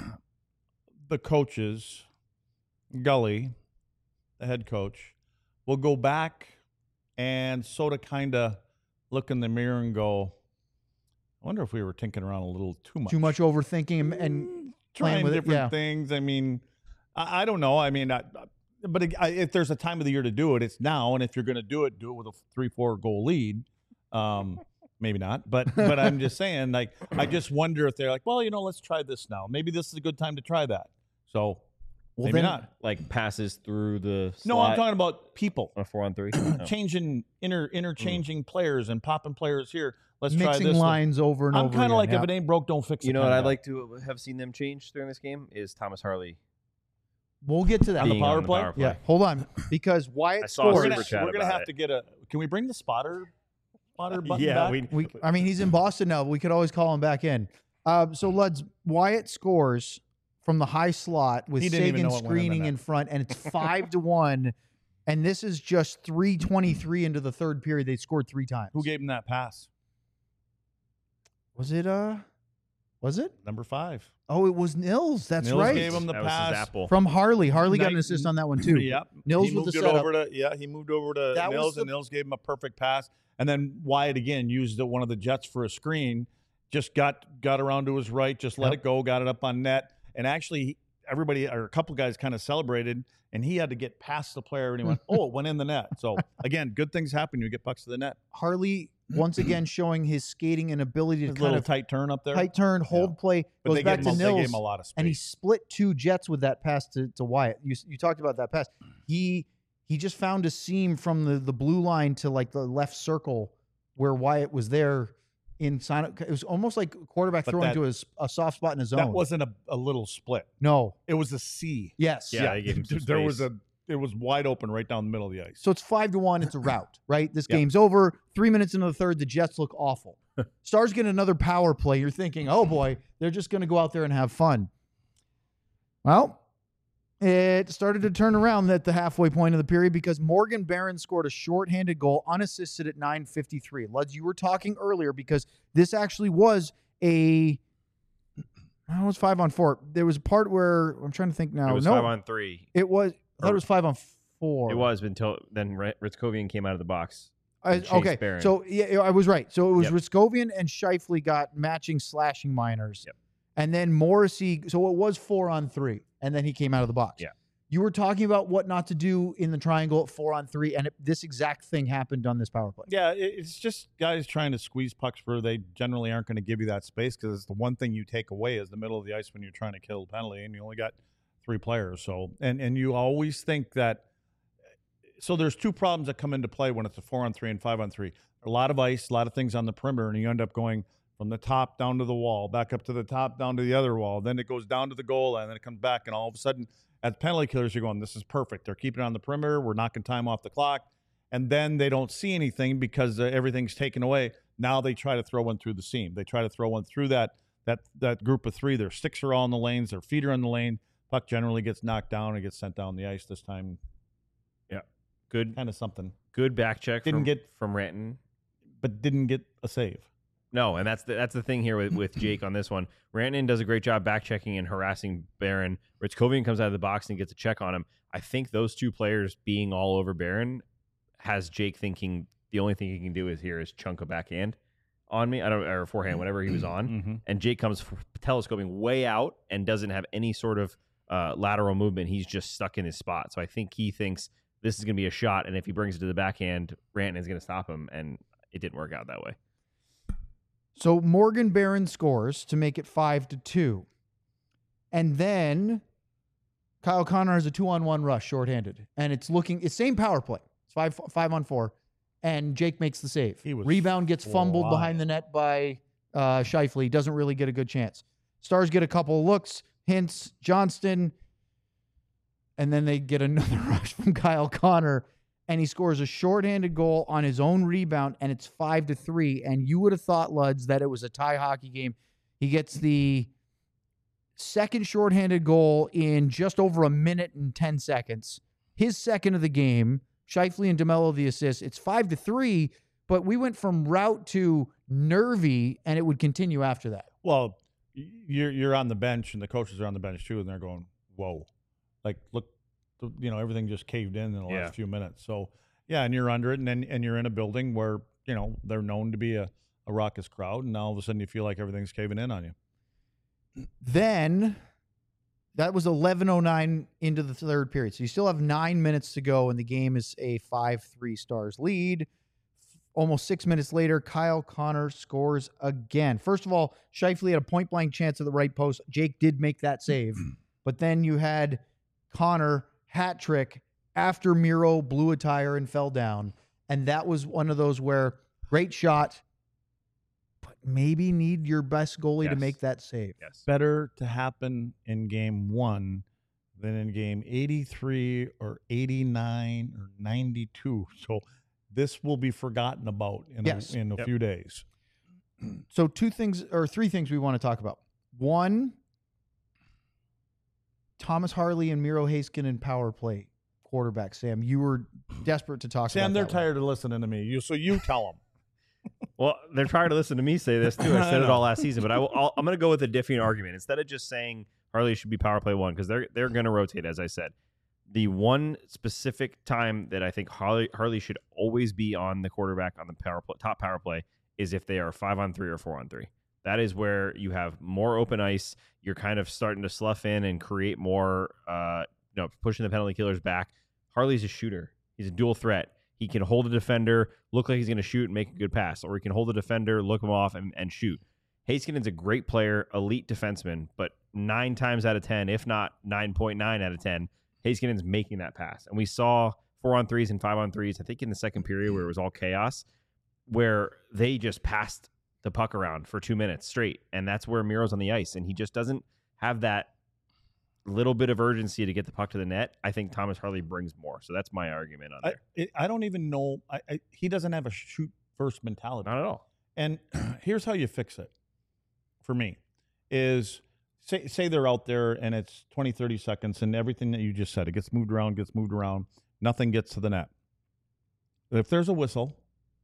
the coaches, Gully, the head coach, will go back and sort of kind of look in the mirror and go, I wonder if we were tinkering around a little too much. Too much overthinking and, and Mm, playing trying with it, different yeah. things. I mean, I, I don't know. I mean, I, but I, if there's a time of the year to do it, it's now. And if you're going to do it, do it with a three, four goal lead. Um, maybe not, but but I'm just saying, like, I just wonder if they're like, well, you know, let's try this now. Maybe this is a good time to try that. So Well, maybe then- not. Like passes through the No, I'm slot talking about people on a four on three. Oh. changing, inter interchanging players and popping players here. Let's try mixing this. lines over and I'm over kind again. of like, yeah. if it ain't broke, don't fix it. You know what kinda I'd guy. like to have seen them change during this game is Thomas Harley We'll get to that. On the being power on the play? power play. Yeah, hold on. Because I Wyatt saw a We're scores. gonna, super chat we're gonna about have it. to get a. Can we bring the spotter, spotter button Yeah, back? we, We, I mean, he's in Boston now. But we could always call him back in. Um, so, Luds, Wyatt scores from the high slot with He didn't even Sagan know it went in the screening net. in front, and it's five to one. And this is just three twenty-three into the third period. They scored three times. Who gave him that pass? was it? Uh, was it? Number five. Oh, it was Nils. That's Nils right. gave him the that was his pass. apple. From Harley. Harley got an Knight- assist on that one too. Yep. Nils he with moved the it setup. over to yeah. He moved over to That was Nils, the- and Nils gave him a perfect pass. And then Wyatt again used the, one of the Jets for a screen just got got around to his right, just let Yep. it go, got it up on net, and actually everybody or a couple guys kind of celebrated, and he had to get past the player, and he went, "Oh, it went in the net." So again, good things happen when you get pucks to the net. Harley once again showing his skating and ability to His kind little of tight turn up there, tight turn, hold play, but goes they back gave, to him, a- they gave Nils, him a lot of space. and he split two Jets with that pass to, to Wyatt. You you talked about that pass. He he just found a seam from the, the blue line to like the left circle where Wyatt was there. In sign, it was almost like a quarterback But throwing that- to a, s- a soft spot in his that zone. wasn't a, a little split; no, it was a C. yes, Yeah, they gave him some there was space. a it was wide open right down the middle of the ice. So it's five to one. It's a rout, right? This Yeah. game's over. Three minutes into the third, the Jets look awful. Stars get another power play. You're thinking, oh boy, they're just going to go out there and have fun. Well, it started to turn around at the halfway point of the period because Morgan Barron scored a shorthanded goal unassisted at nine fifty-three. Luds, you were talking earlier because this actually was a. I was five on four. There was a part where I'm trying to think now. It was no, five on three. it was. I thought Or- it was five on four. It was until then Rit- Ritzkovian came out of the box. I, and Chase okay, Barron. so yeah, I was right. So it was Yep. Ritzkovian and Scheifele got matching slashing minors, Yep. and then Morrissey. So it was four on three, and then he came out of the box. Yeah. You were talking about what not to do in the triangle at four on three, and it, this exact thing happened on this power play. Yeah, it- it's just guys trying to squeeze pucks where they generally aren't going to give you that space because it's the one thing you take away is the middle of the ice when you're trying to kill a penalty, and you only got three players. So and and you always think that. So there's two problems that come into play when it's a four on three and five on three. A lot of ice, a lot of things on the perimeter, and you end up going from the top down to the wall, back up to the top, down to the other wall. Then it goes down to the goal, and then it comes back, and all of a sudden, as penalty killers, you're going, "This is perfect. They're keeping it on the perimeter. We're knocking time off the clock." And then they don't see anything because uh, everything's taken away. Now they try to throw one through the seam. They try to throw one through that that that group of three. Their sticks are all in the lanes. Their feet are in the lane. Puck generally gets knocked down and gets sent down the ice. This time, Good, kind of something, good back check. Didn't from, get- from Ranton. but didn't get a save. No, and that's the, that's the thing here with, with Jake on this one. Rantanen does a great job back checking and harassing Barron. Ritzkovian comes out of the box and gets a check on him. I think those two players being all over Barron has Jake thinking the only thing he can do is here is chunk a backhand on me. I don't or forehand, whatever he was on. Mm-hmm. And Jake comes f- telescoping way out and doesn't have any sort of uh, lateral movement. He's just stuck in his spot. So I think he thinks this is going to be a shot, and if he brings it to the backhand, Rantanen is going to stop him, and it didn't work out that way. So Morgan Barron scores to make it five to two, and then Kyle Connor has a two on one rush, shorthanded, and it's looking it's same power play. It's five five on four, and Jake makes the save. He was Rebound gets fumbled flying. behind the net by uh, Scheifele. Doesn't really get a good chance. Stars get a couple of looks, hints, Johnston, and then they get another rush from Kyle Connor, and he scores a shorthanded goal on his own rebound, and it's five to three. And you would have thought, Luds, that it was a tie hockey game. He gets the second shorthanded goal in just over a minute and ten seconds. His second of the game. Scheifele and DeMello the assist. It's five to three, but we went from rout to nervy, and it would continue after that. Well, y- you're you're on the bench, and the coaches are on the bench too, and they're going, "Whoa!" Like, look, th- you know, everything just caved in in the Yeah. last few minutes. So, yeah, and you're under it, and then and you're in a building where you know they're known to be a, a raucous crowd, and now all of a sudden you feel like everything's caving in on you. Then that was eleven oh nine into the third period. So you still have nine minutes to go, and the game is a five three Stars lead. Almost six minutes later, Kyle Connor scores again. First of all, Scheifele had a point-blank chance at the right post. Jake did make that save. But then you had Connor hat trick after Miro blew a tire and fell down. And that was one of those where great shot, but maybe need your best goalie to Yes. make that save. Yes. Better to happen in game one than in game eighty-three or eighty-nine or ninety-two. So this will be forgotten about in Yes. a, in a Yep. few days. So two things or three things we want to talk about. One, Thomas Harley and Miro Heiskanen power play quarterback. Sam, you were desperate to talk Sam, about they're that one. tired of listening to me. You so you tell them. Well, they're trying to listen to me say this too. I I said it know. all last season, but I will, I'll, I'm going to go with a different argument instead of just saying Harley should be power play one because they're they're going to rotate, as I said. The one specific time that I think Harley Harley should always be on the quarterback on the power play, top power play is if they are five on three or four on three. That is where you have more open ice. You're kind of starting to slough in and create more, uh, you know, pushing the penalty killers back. Harley's a shooter. He's a dual threat. He can hold a defender, look like he's going to shoot and make a good pass, or he can hold a defender, look him off, and, and shoot. Heiskanen's a great player, elite defenseman, but nine times out of ten, if not nine point nine out of ten, Heiskanen's making that pass. And we saw four on threes and five on threes, I think in the second period where it was all chaos, where they just passed the puck around for two minutes straight. And that's where Miro's on the ice. And he just doesn't have that little bit of urgency to get the puck to the net. I think Thomas Harley brings more. So that's my argument on I, there. it, I don't even know. I, I, he doesn't have a shoot first mentality. Not at all. And here's how you fix it for me is say, say they're out there and it's twenty, thirty seconds and everything that you just said, it gets moved around, gets moved around. Nothing gets to the net. If there's a whistle,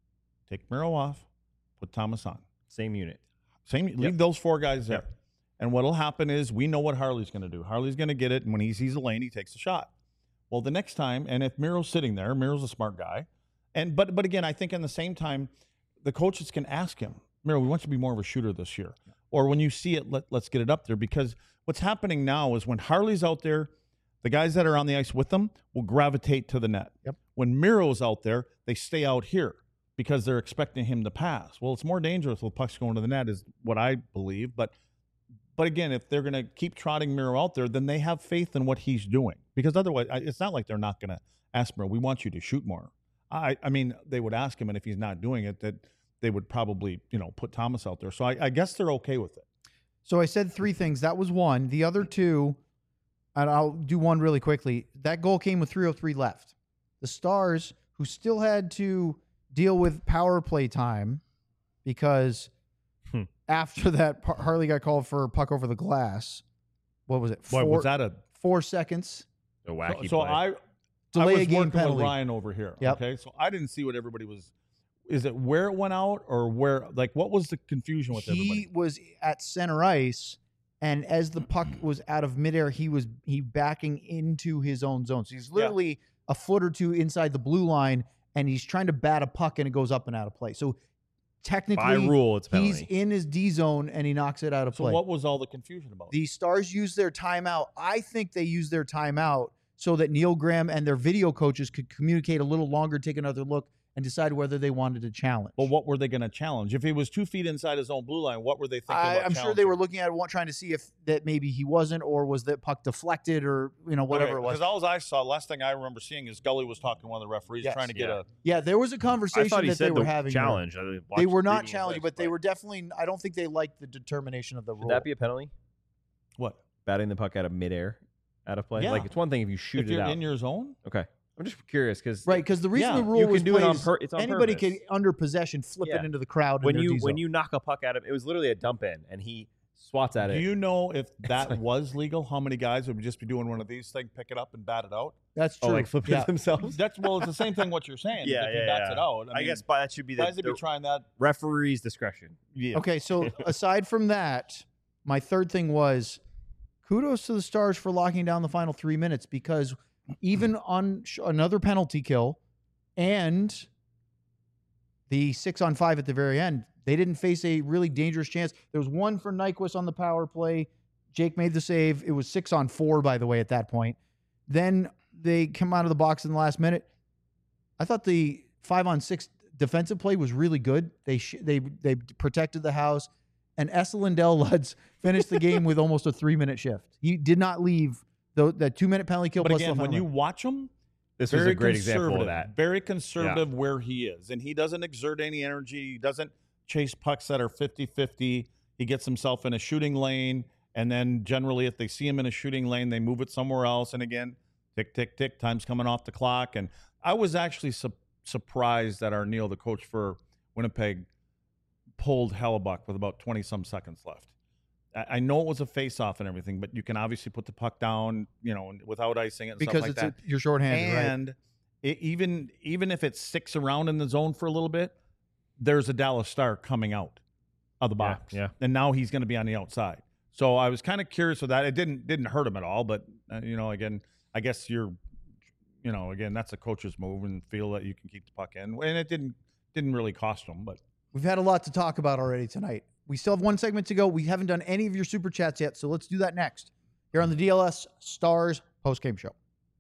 take Miro off, put Thomas on. Same unit. Same. Yep. Leave those four guys there. Yep. And what'll happen is we know what Harley's going to do. Harley's going to get it, and when he sees a lane, he takes a shot. Well, the next time, and if Miro's sitting there, Miro's a smart guy. And but but again, I think in the same time, the coaches can ask him, Miro, we want you to be more of a shooter this year. Yeah. Or when you see it, let, let's get it up there. Because what's happening now is when Harley's out there, the guys that are on the ice with them will gravitate to the net. Yep. When Miro's out there, they stay out here because they're expecting him to pass. Well, it's more dangerous with pucks going to the net is what I believe. But but again, if they're going to keep trotting Miro out there, then they have faith in what he's doing. Because otherwise, it's not like they're not going to ask Miro, we want you to shoot more. I, I mean, they would ask him, and if he's not doing it, that they would probably, you know, put Thomas out there. So I, I guess they're okay with it. So I said three things. That was one. The other two, and I'll do one really quickly. That goal came with three oh three left. The Stars, who still had to deal with power play time because Hmm. after that, Par- Harley got called for a puck over the glass. What was it? Boy, Four, was that a four seconds. A wacky so, so play. I Delay I was a game working penalty. with Ryan over here. Yep. Okay, so I didn't see what everybody was. Is it where it went out or where? Like, what was the confusion with He everybody? was at center ice, and as the puck was out of midair, he was he backing into his own zone. So he's literally a foot or two inside the blue line, and he's trying to bat a puck, and it goes up and out of play. So technically, By rule, it's a he's penalty. in his D zone, and he knocks it out of So play. what was all the confusion about? The Stars used their timeout. I think they used their timeout so that Neil Graham and their video coaches could communicate a little longer, take another look, and decide whether they wanted to challenge. But what were they going to challenge? If he was two feet inside his own blue line, what were they thinking I, about I'm sure they challenging? were looking at it, trying to see if that maybe he wasn't, or was that puck deflected, or you know whatever it was. Because all I saw, last thing I remember seeing is Gully was talking to one of the referees, Yes. trying to get Yeah. a. Yeah, there was a I conversation thought he that said they were the having. there. challenge. I They watched- were not reading his challenging, legs but they play. were definitely. I don't think they liked the determination of the rule. Would that be a penalty? What? Batting the puck out of midair, out of play. Yeah. Like it's one thing if you shoot If it you're out. in your zone? Okay, I'm just curious because right? Because the reason Yeah, the rule you can was do it played on is pur- it's on anybody purpose. could under possession flip Yeah. it into the crowd when in their you D when zone. you knock a puck at him, it was literally a dump in, and he swats at Do it. you know if that like- was legal? How many guys would just be doing one of these things, pick it up and bat it out? That's true. oh, like flipping yeah. it themselves. That's well, it's the same thing what you're saying. Yeah, if he yeah, bats yeah. it out. I, I mean, guess by that should be the, guys would be the trying that. referee's discretion. Yeah. Okay, so aside from that, my third thing was kudos to the Stars for locking down the final three minutes because even on sh- another penalty kill and the six on five at the very end, they didn't face a really dangerous chance. There was one for Nyquist on the power play. Jake made the save. It was six on four, by the way, at that point. Then they come out of the box in the last minute. I thought the five on six defensive play was really good. They sh- they they protected the house, and Esa Lindell Lutz finished the game with almost a three minute shift. He did not leave the that two minute penalty kill. But plus again, the when final you minute. watch him, This was very a great example of conservative, that. Very conservative where he is. And he doesn't exert any energy. He doesn't chase pucks that are fifty-fifty. He gets himself in a shooting lane. And then generally, if they see him in a shooting lane, they move it somewhere else. And again, tick, tick, tick, time's coming off the clock. And I was actually su- surprised that our Neil, the coach for Winnipeg, pulled Hellebuck with about twenty-some seconds left. I, I know it was a face-off and everything, but you can obviously put the puck down, you know, without icing it and because stuff like it's that. a, you're shorthanded, right? And it, even even if it sticks around in the zone for a little bit, there's a Dallas Star coming out of the Yeah, box, yeah. and now he's going to be on the outside. So I was kind of curious with that. It didn't didn't hurt him at all, but uh, you know, again, I guess you're, you know, again, that's a coach's move and feel that you can keep the puck in, and it didn't didn't really cost him, but We've had a lot to talk about already tonight. we still have one segment to go. We haven't done any of your super chats yet, so let's do that next here on the D L S Stars post-game show.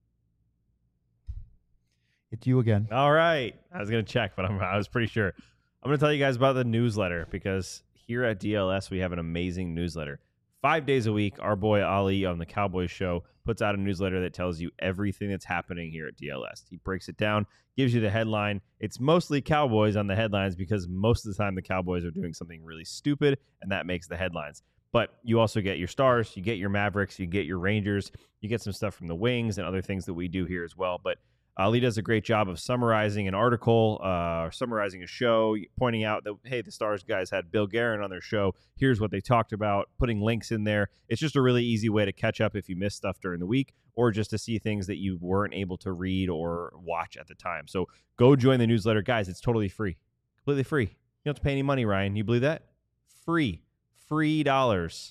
It's you again. All right. I was going to check, but I'm, I was pretty sure. I'm going to tell you guys about the newsletter because here at D L S, we have an amazing newsletter. Five days a week, our boy Ali on the Cowboys Show puts out a newsletter that tells you everything that's happening here at D L S. He breaks it down, gives you the headline. It's mostly Cowboys on the headlines because most of the time the Cowboys are doing something really stupid, and that makes the headlines. But you also get your Stars, you get your Mavericks, you get your Rangers, you get some stuff from the Wings and other things that we do here as well. But Ali does a great job of summarizing an article, uh, or summarizing a show, pointing out that, hey, the Stars guys had Bill Guerin on their show. Here's what they talked about, putting links in there. It's just a really easy way to catch up if you missed stuff during the week or just to see things that you weren't able to read or watch at the time. So go join the newsletter. Guys, it's totally free. Completely free. You don't have to pay any money, Ryan. You believe that? Free. Free dollars.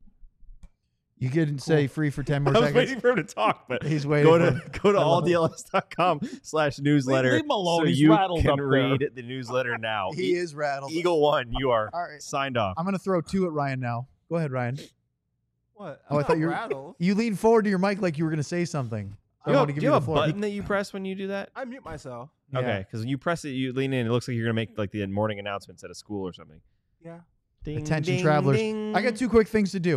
You couldn't cool. say free for ten more I was seconds. waiting for him to talk, but he's waiting. Go to go to all D L S dot com slash newsletter. Leave him alone. So He's you rattled can up there. read the newsletter now. He is rattled. Eagle One, you are all right. signed off. I'm going to throw two at Ryan now. Go ahead, Ryan. What? Oh, I'm I thought you were rattled. You leaned forward to your mic like you were going to say something. So You I have, want to give do you, you the have a floor. button that you press when you do that? I mute myself. Yeah. Okay, because when you press it, you lean in. It looks like you're gonna make like the morning announcements at a school or something. Yeah. Ding, Attention, ding, travelers. ding. I got two quick things to do.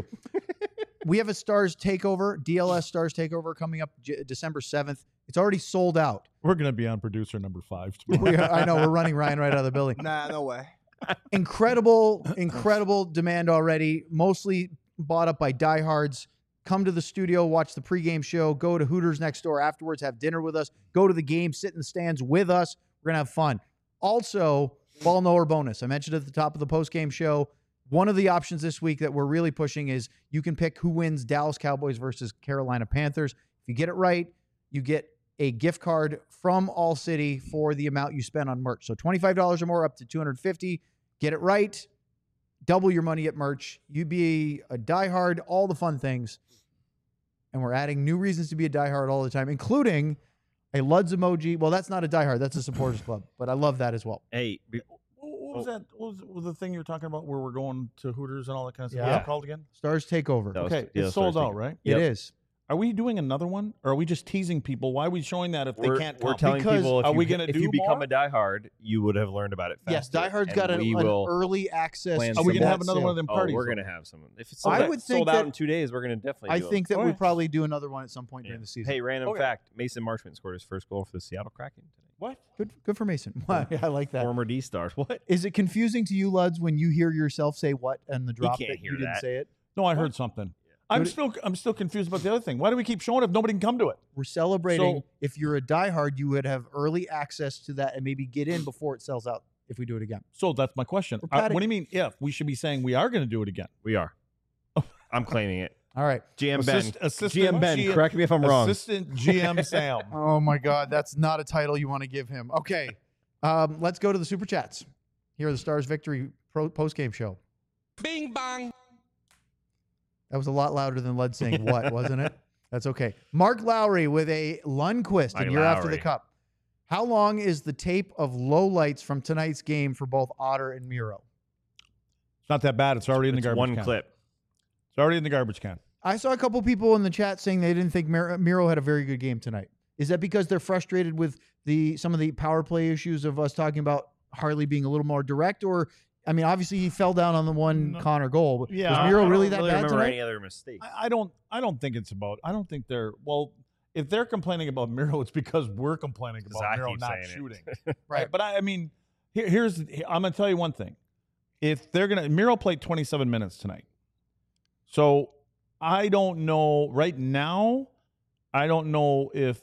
We have a Stars Takeover, D L S Stars Takeover coming up J- December seventh. It's already sold out. We're going to be on producer number five tomorrow. We are, I know, we're running Ryan right out of the building. Nah, no way. Incredible, incredible demand already, mostly bought up by diehards. Come to the studio, watch the pregame show, go to Hooters next door afterwards, have dinner with us, go to the game, sit in the stands with us. We're going to have fun. Also, ball knower bonus. I mentioned at the top of the postgame show, one of the options this week that we're really pushing is you can pick who wins Dallas Cowboys versus Carolina Panthers. If you get it right, you get a gift card from All City for the amount you spend on merch. So twenty-five dollars or more up to two hundred fifty dollars. Get it right. Double your money at merch. You be a diehard, all the fun things. And we're adding new reasons to be a diehard all the time, including a Luds emoji. Well, that's not a diehard. That's a supporters club. But I love that as well. Hey, be- What was that? What was, what was the thing you were talking about where we're going to Hooters and all that kind of stuff? Yeah. What's it called again? Stars Takeover. That was- Okay, yeah, it's sold Stars out, Takeover. right? Yep. It is. Are we doing another one, or are we just teasing people? Why are we showing that if we're, they can't we're come? telling Because people if are you, we gonna if do you become more? a diehard, you would have learned about it faster. Yes, Diehard's and got an, we an will early access. plan to Are we some going to that have another sale. one of them Oh, parties? we're though? gonna have someone. If it's sold, I out, would think sold out that- in two days, we're gonna definitely. I do think them. that we Okay. probably do another one at some point Yeah. during the season. Hey, random Okay. fact: Mason Marshman scored his first goal for the Seattle Kraken today. What? Good, good for Mason. Why? I like that. Former D Stars. What? Is it confusing to you, Luds, when you hear yourself say what and the drop can't that hear you didn't that. say it? No, I heard something. I'm What- still I'm still confused about the other thing. Why do we keep showing it if nobody can come to it? We're celebrating. So- If you're a diehard, you would have early access to that and maybe get in before it sells out if we do it again. So that's my question. We're Uh, patting- what do you mean if? We should be saying we are going to do it again. We are. I'm claiming it. All right. G M Ben. Assist- assistant G M Ben. G M Correct me if I'm wrong. Assistant G M Sam. Oh, my God. That's not a title you want to give him. Okay. Um, let's go to the Super Chats. Here are the Stars Victory pro- post-game show. Bing bang. That was a lot louder than Lud saying what, wasn't it? That's okay. Mark Lowry with a Lundqvist, Mike and you're after the Lowry. cup. How long is the tape of lowlights from tonight's game for both Otter and Miro? It's not that bad. It's already in the It's garbage one can. clip. It's already in the garbage can. I saw a couple people in the chat saying they didn't think Mir- Miro had a very good game tonight. Is that because they're frustrated with the some of the power play issues of us talking about Harley being a little more direct? Or, I mean, obviously he fell down on the one No. Connor goal. But Yeah, was I Miro don't really that really bad remember tonight? any other mistakes. I, I don't. I don't think it's about. I don't think they're. Well, if they're complaining about Miro, it's because we're complaining 'Cause about I Miro keep not saying it. shooting. Right. But I, I mean, here, here's. I'm going to tell you one thing. If they're gonna, Miro played twenty-seven minutes tonight. So I don't know right now. I don't know if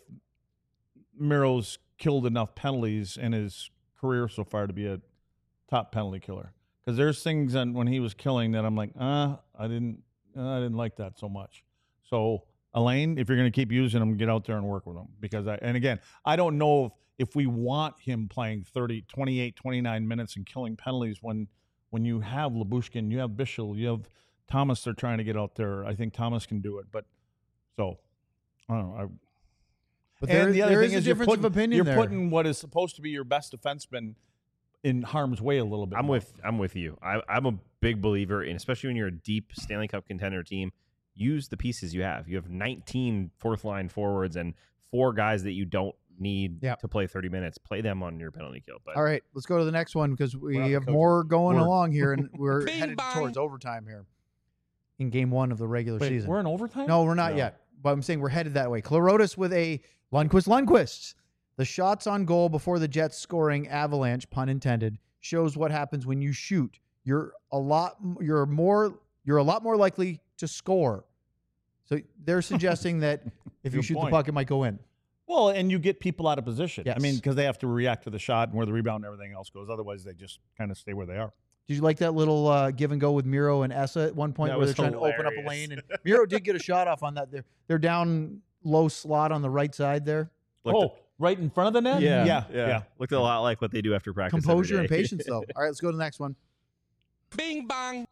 Miro's killed enough penalties in his career so far to be a top penalty killer. Because there's things that when he was killing that I'm like, uh, I didn't, uh, I didn't like that so much. So Elaine, if you're going to keep using him, get out there and work with him. Because I, and again, I don't know if, if we want him playing thirty, twenty-eight, twenty-nine minutes and killing penalties when, when you have Labushkin, you have Bichel, you have Thomas. They're trying to get out there. I think Thomas can do it. But so I don't know. I, But and there, the other there thing is a is you're difference putting, of opinion you're there. putting what is supposed to be your best defenseman in harm's way a little bit. I'm more. with I'm with you. I, I'm a big believer in, especially when you're a deep Stanley Cup contender team, use the pieces you have. You have nineteen fourth line forwards and four guys that you don't need Yep. to play thirty minutes. Play them on your penalty kill. But All right, let's go to the next one because we on the have coaching. more going We're- along here, and we're Bing headed bong. towards overtime here in game one of the regular Wait, season. we're in overtime. No, we're not No. yet. But I'm saying we're headed that way. Clorotis with a Lundqvist Lundqvist. The shots on goal before the Jets scoring avalanche, pun intended, shows what happens when you shoot. You're a lot you're more you're a lot more likely to score. So they're suggesting that if you Good shoot point. the puck, it might go in. Well, and you get people out of position. I Yes. mean, because they have to react to the shot and where the rebound and everything else goes. Otherwise, they just kind of stay where they are. Did you like that little uh, give and go with Miro and Essa at one point That where was they're trying to open up a hilarious. lane? And Miro did get a shot off on that. They're, they're down low slot on the right side there. Looked oh, right in front of the net? yeah, yeah. yeah, Looked a lot like what they do after practice. every Composure and day. patience, though. All right, let's go to the next one. Bing bong.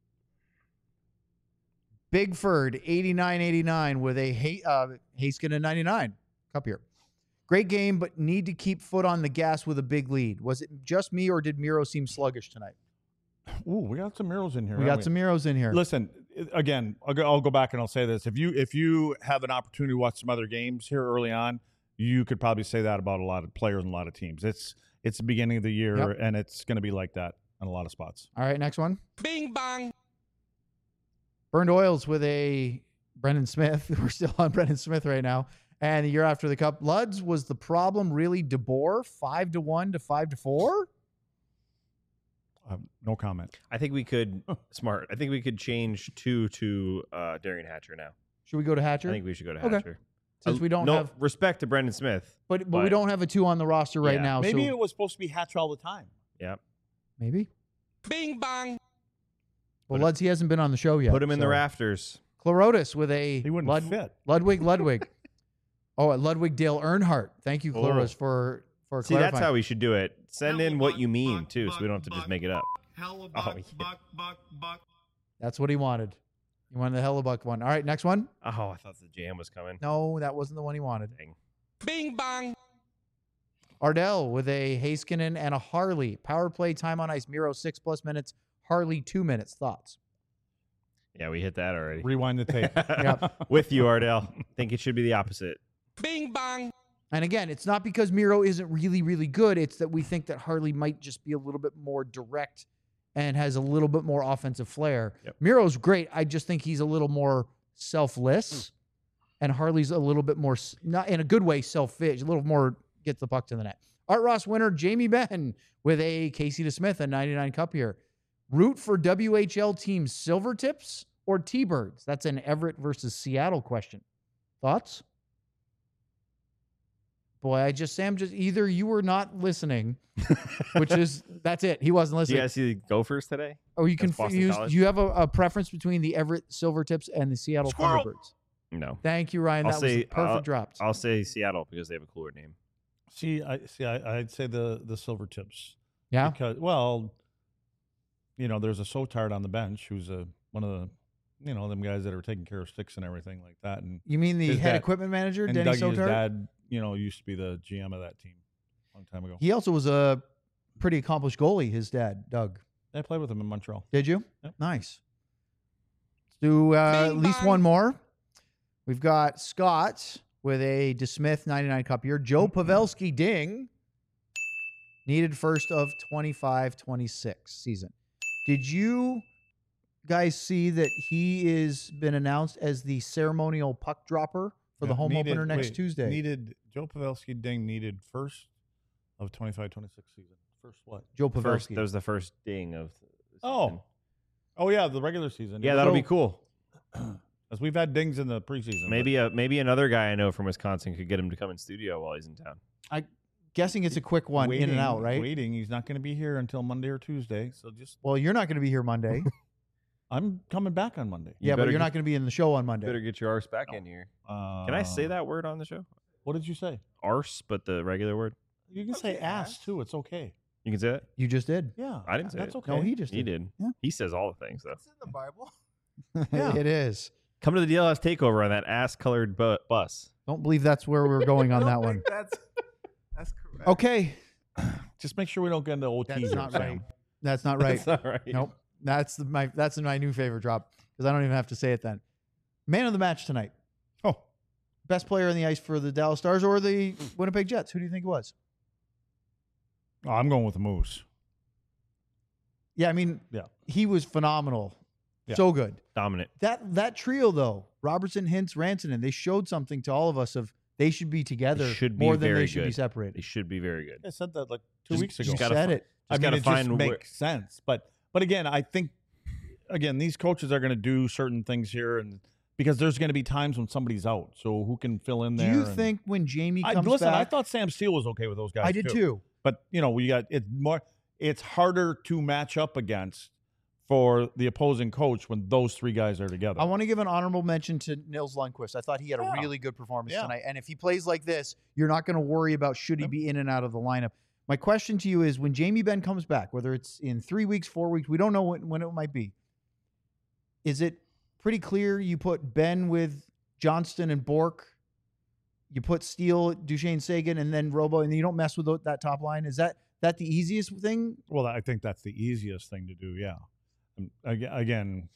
Bigford, eighty-nine eighty-nine with a Hay, uh, Haskinen ninety-nine cup here. Great game, but need to keep foot on the gas with a big lead. Was it just me, or did Miro seem sluggish tonight? Ooh, we got some Miros in here. We haven't got some Miros in here. Listen, again, I'll go, I'll go back and I'll say this: if you if you have an opportunity to watch some other games here early on, you could probably say that about a lot of players and a lot of teams. It's it's the beginning of the year, Yep. and it's going to be like that in a lot of spots. All right, next one. Bing bong. Burned Oils with a Brendan Smith. We're still on Brendan Smith right now. And the year after the cup, Luds was the problem really DeBoer, five to one to five to four. Um, no comment. I think we could smart. I think we could change two to uh, Darian Hatcher now. Should we go to Hatcher? I think we should go to Okay. Hatcher. Since Uh, we don't no have, respect to Brendan Smith. but, but we but- don't have a two on the roster right Yeah. now. Maybe so it was supposed to be Hatcher all the time. Yeah, maybe. Bing bong. Well, Put it- Luds, he hasn't been on the show yet. put him in the so- rafters. Clorotis with a He wouldn't Lud- fit. Ludwig Ludwig. oh, at Ludwig Dale Earnhardt. Thank you, Clorotis, Oh. for for See, that's clarifying. how we should do it. Send in what you mean Buck, too, so we don't have to buck, just make it up. Hella Oh, buck, yeah. buck, buck, buck. That's what he wanted. He wanted the Hellebuck one. All right, next one. Oh, I thought the jam was coming. No, that wasn't the one he wanted. Dang. Bing bong. Ardell with a Haskinen and a Harley. Power play time on ice. Miro six plus minutes. Harley two minutes. Thoughts? Yeah, we hit that already. Rewind the tape. Yep. With you, Ardell. Think it should be the opposite. Bing bong. And again, it's not because Miro isn't really, really good. It's that we think that Harley might just be a little bit more direct and has a little bit more offensive flair. Yep. Miro's great. I just think he's a little more selfless, and Harley's a little bit more, s- not in a good way, selfish, a little more gets the puck to the net. Art Ross winner Jamie Benn with a Casey DeSmith, a ninety-nine cup here. Root for W H L teams Silver Tips or T-Birds? That's an Everett versus Seattle question. Thoughts? Boy, I just Sam just either you were not listening, which is that's it. He wasn't Do you listening. guys see the Gophers today? Or you can That's Boston use. College? Do you have a, a preference between the Everett Silver Tips and the Seattle Squirrel. Thunderbirds? No. Thank you, Ryan. I'll that was say- the perfect I'll- drop. I'll say Seattle because they have a cooler name. see, I see. I, I'd say the the Silver Tips. Yeah. Because well, you know, there's a Sotard on the bench who's a one of the, you know, them guys that are taking care of sticks and everything like that. And You mean the His head dad- equipment manager, and Denny Dougie's Sotard? dad, you know, used to be the G M of that team a long time ago. He also was a pretty accomplished goalie. His dad, Doug. I played with him in Montreal. Did you? Yep. Nice. Let's do uh, at Bing least bong. one more. We've got Scott with a DeSmith ninety-nine cup here. Joe Pavelski ding. Needed first of twenty-five twenty-six season. Did you guys see that he is been announced as the ceremonial puck dropper for the Yeah, home needed- opener next wait, Tuesday? Needed Joe Pavelski ding needed first of twenty-five twenty-six season. First what? Joe First, Pavelski. that was the first ding of. The season. Oh. Oh yeah, the regular season. yeah, that'll be So- cool. As we've had dings in the preseason. but- Maybe a maybe another guy I know from Wisconsin could get him to come in studio while he's in town. Guessing it's a quick one in and Waiting- out, right? Waiting. He's not going to be here until Monday or Tuesday. So just Well, you're not going to be here Monday. I'm coming back on Monday. yeah, but better you're get- not going to be in the show on Monday. Better get your arse back No. in here. Uh, Can I say that word on the show? What did you say? Arse, but the regular word. You can say ass too. It's okay. You can say that. You just did. Yeah, I didn't say that's it. okay. No, he just He did. did. Yeah. He says all the things though. It's in the Bible. Yeah. It is. Come to the D L S takeover on that ass-colored bu- bus. Don't believe that's where we're going on I that don't one. think That's that's correct. Okay. Just make sure we don't get into O T. That's here, not Sam. right. That's not right. That's not right. Nope. That's the, my that's my new favorite drop because I don't even have to say it then. Man of the match tonight. Oh, Best player on the ice for the Dallas Stars or the Winnipeg Jets? Who do you think it was? oh I'm going with the Moose. Yeah, I mean, Yeah. he was phenomenal. Yeah. So good. Dominant. That that trio though, Robertson, Hintz, Rantanen, they showed something to all of us of they should be together They should be more than very they should be good. They separated. should be very good. I said that like two Just- weeks just You ago. gotta said fi- it. I Just mean, gotta it find just where- makes sense. But but again, I think again these coaches are going to do certain things here, and because there's going to be times when somebody's out, so who can fill in Do there? you and- think when Jamie I, comes listen, back? I thought Sam Steele was okay with those guys. I did too. But you know, we got it's more. It's harder to match up against for the opposing coach when those three guys are together. I want to give an honorable mention to Nils Lundqvist. I thought he had a Yeah. really good performance Yeah. tonight. And if he plays like this, you're not going to worry about should he be in and out of the lineup. My question to you is when Jamie Benn comes back, whether it's in three weeks, four weeks, we don't know when, when it might be. Is it pretty clear you put Ben with Johnston and Bork? You put Steele, Duchesne, Sagan, and then Robo, and you don't mess with tho- that top line? Is that that the easiest thing? well, I think that's the easiest thing to do. Yeah. Um, aga- Again,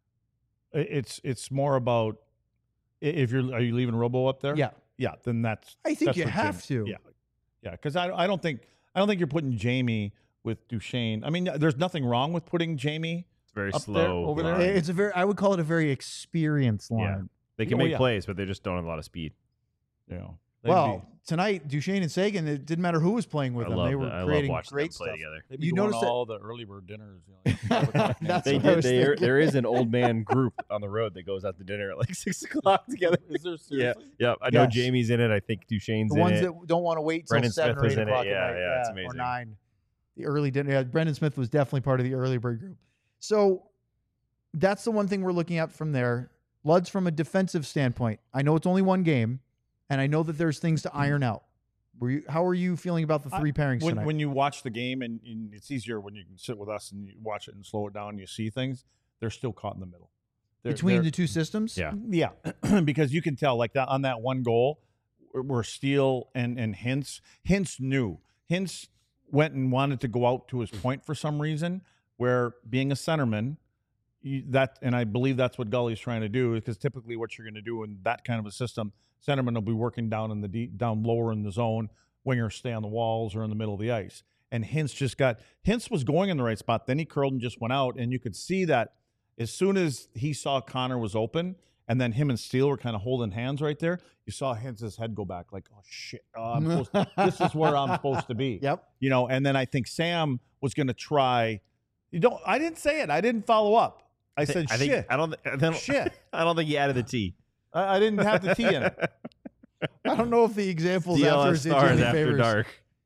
i- it's it's more about i- if you're are you leaving Robo up there? Yeah. Yeah. Then that's. I think that's you what have Jamie- to. Yeah. Yeah. Because I I don't think I don't think you're putting Jamie with Duchesne. I mean, there's nothing wrong with putting Jamie. It's very Up there, slow. over there? line. It's a very, I would call it a very experienced line. Yeah. They can Oh, make yeah. plays, but they just don't have a lot of speed. You know. they'd Well, be- tonight Duchesne and Sagan, it didn't matter who was playing with I them. love they were that. I love creating watching great them play stuff. together. they'd be you going notice to that- all the early bird dinners. You know, like, That's They what I did. was They, thinking. there is an old man group on the road that goes out to dinner at like six o'clock together. Is there Yeah, seriously? yeah. I know Yes. Jamie's in it. I think Duchesne's The in ones it. that don't want to wait till Brendan seven Smith or was eight in it. o'clock at Yeah, night, yeah, it's or amazing. nine. The early dinner. Yeah, Brendan Smith was definitely part of the early bird group. So that's the one thing we're looking at from there. Luds, from a defensive standpoint, I know it's only one game, and I know that there's things to iron out. Were you? How are you feeling about the I- three pairings when, tonight? when you watch the game, and, and it's easier when you can sit with us and you watch it and slow it down and you see things, they're still caught in the middle. They're, Between they're- the two systems? Yeah. Yeah, because you can tell like that on that one goal where- where Steele and and Hintz Hintz knew Hintz went and wanted to go out to his point for some reason. Where being a centerman, you, that and I believe that's what Gully's trying to do, because typically what you're going to do in that kind of a system, centerman will be working down in the deep, down lower in the zone. Wingers stay on the walls or in the middle of the ice. And Hintz just got Hintz was going in the right spot. Then he curled and just went out, and you could see that as soon as he saw Connor was open, and then him and Steele were kind of holding hands right there, you saw Hintz's head go back like, oh shit, oh, I'm supposed to, this is where I'm supposed to be. Yep. You know, and then I think Sam was going to try. You don't. I didn't say it. I didn't follow up. I said I think shit. I don't. I don't Shit. I don't think he added the T. I, I didn't have the T in it. I don't know if the examples D L after S is stars any after favors. dark.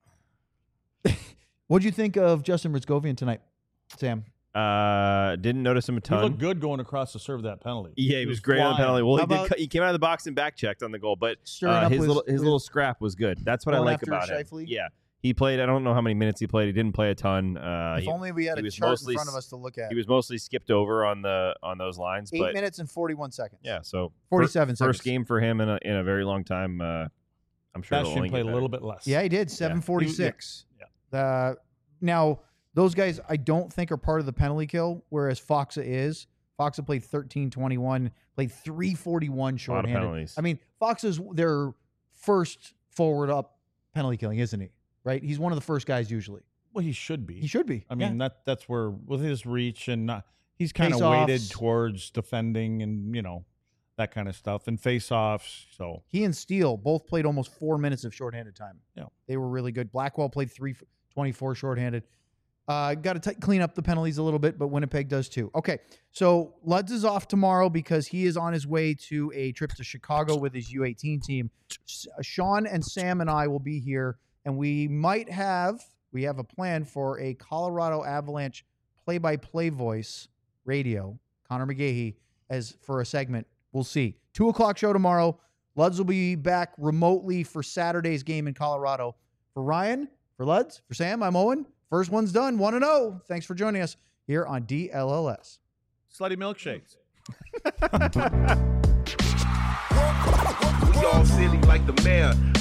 What'd you think of Justin Ritzkovian tonight, Sam? Uh, didn't notice him a He ton. looked good going across to serve that penalty. Yeah, he, was, great on the flying. penalty. Well, How he did. about- cut- He came out of the box and back checked on the goal, but Stirring uh, up his with- little his with- little scrap was good. That's what I Going like after about him. Scheifele? Yeah, he played. I don't know how many minutes he played. He didn't play a ton. Uh, if he, only we had he a was chart in mostly front of s- us to look at. he was mostly skipped over on the on those lines, Eight but minutes and forty-one seconds. yeah. So forty-seven fir- seconds. First game for him in a in a very long time. Uh, I'm sure it'll only Bastian played get a little better. bit less. Yeah, he did. seven forty-six. Yeah. Uh, now, those guys I don't think are part of the penalty kill, whereas Foxa is. Foxa played thirteen twenty-one, played three forty-one A lot of shorthanded. penalties. I mean, Foxa's their first forward up penalty killing, isn't he? Right? He's one of the first guys usually. Well, he should be. He should be. I mean, Yeah. that that's where with his reach and not, he's kind of Face-offs. weighted towards defending and you know that kind of stuff and face-offs. So He and Steele both played almost four minutes of shorthanded time. Yeah. They were really good. Blackwell played three twenty-four shorthanded. Uh, got to clean up the penalties a little bit, but Winnipeg does too. Okay, so Luds is off tomorrow because he is on his way to a trip to Chicago with his U eighteen team. S- Sean and Sam and I will be here, and we might have, we have a plan for a Colorado Avalanche play-by-play voice radio, Connor McGahey, as for a segment. We'll see. Two o'clock show tomorrow. Luds will be back remotely for Saturday's game in Colorado. For Ryan, for Luds, for Sam, I'm Owen. First one's done, one and oh. Thanks for joining us here on D L L S. slutty milkshakes. We all silly like the mayor.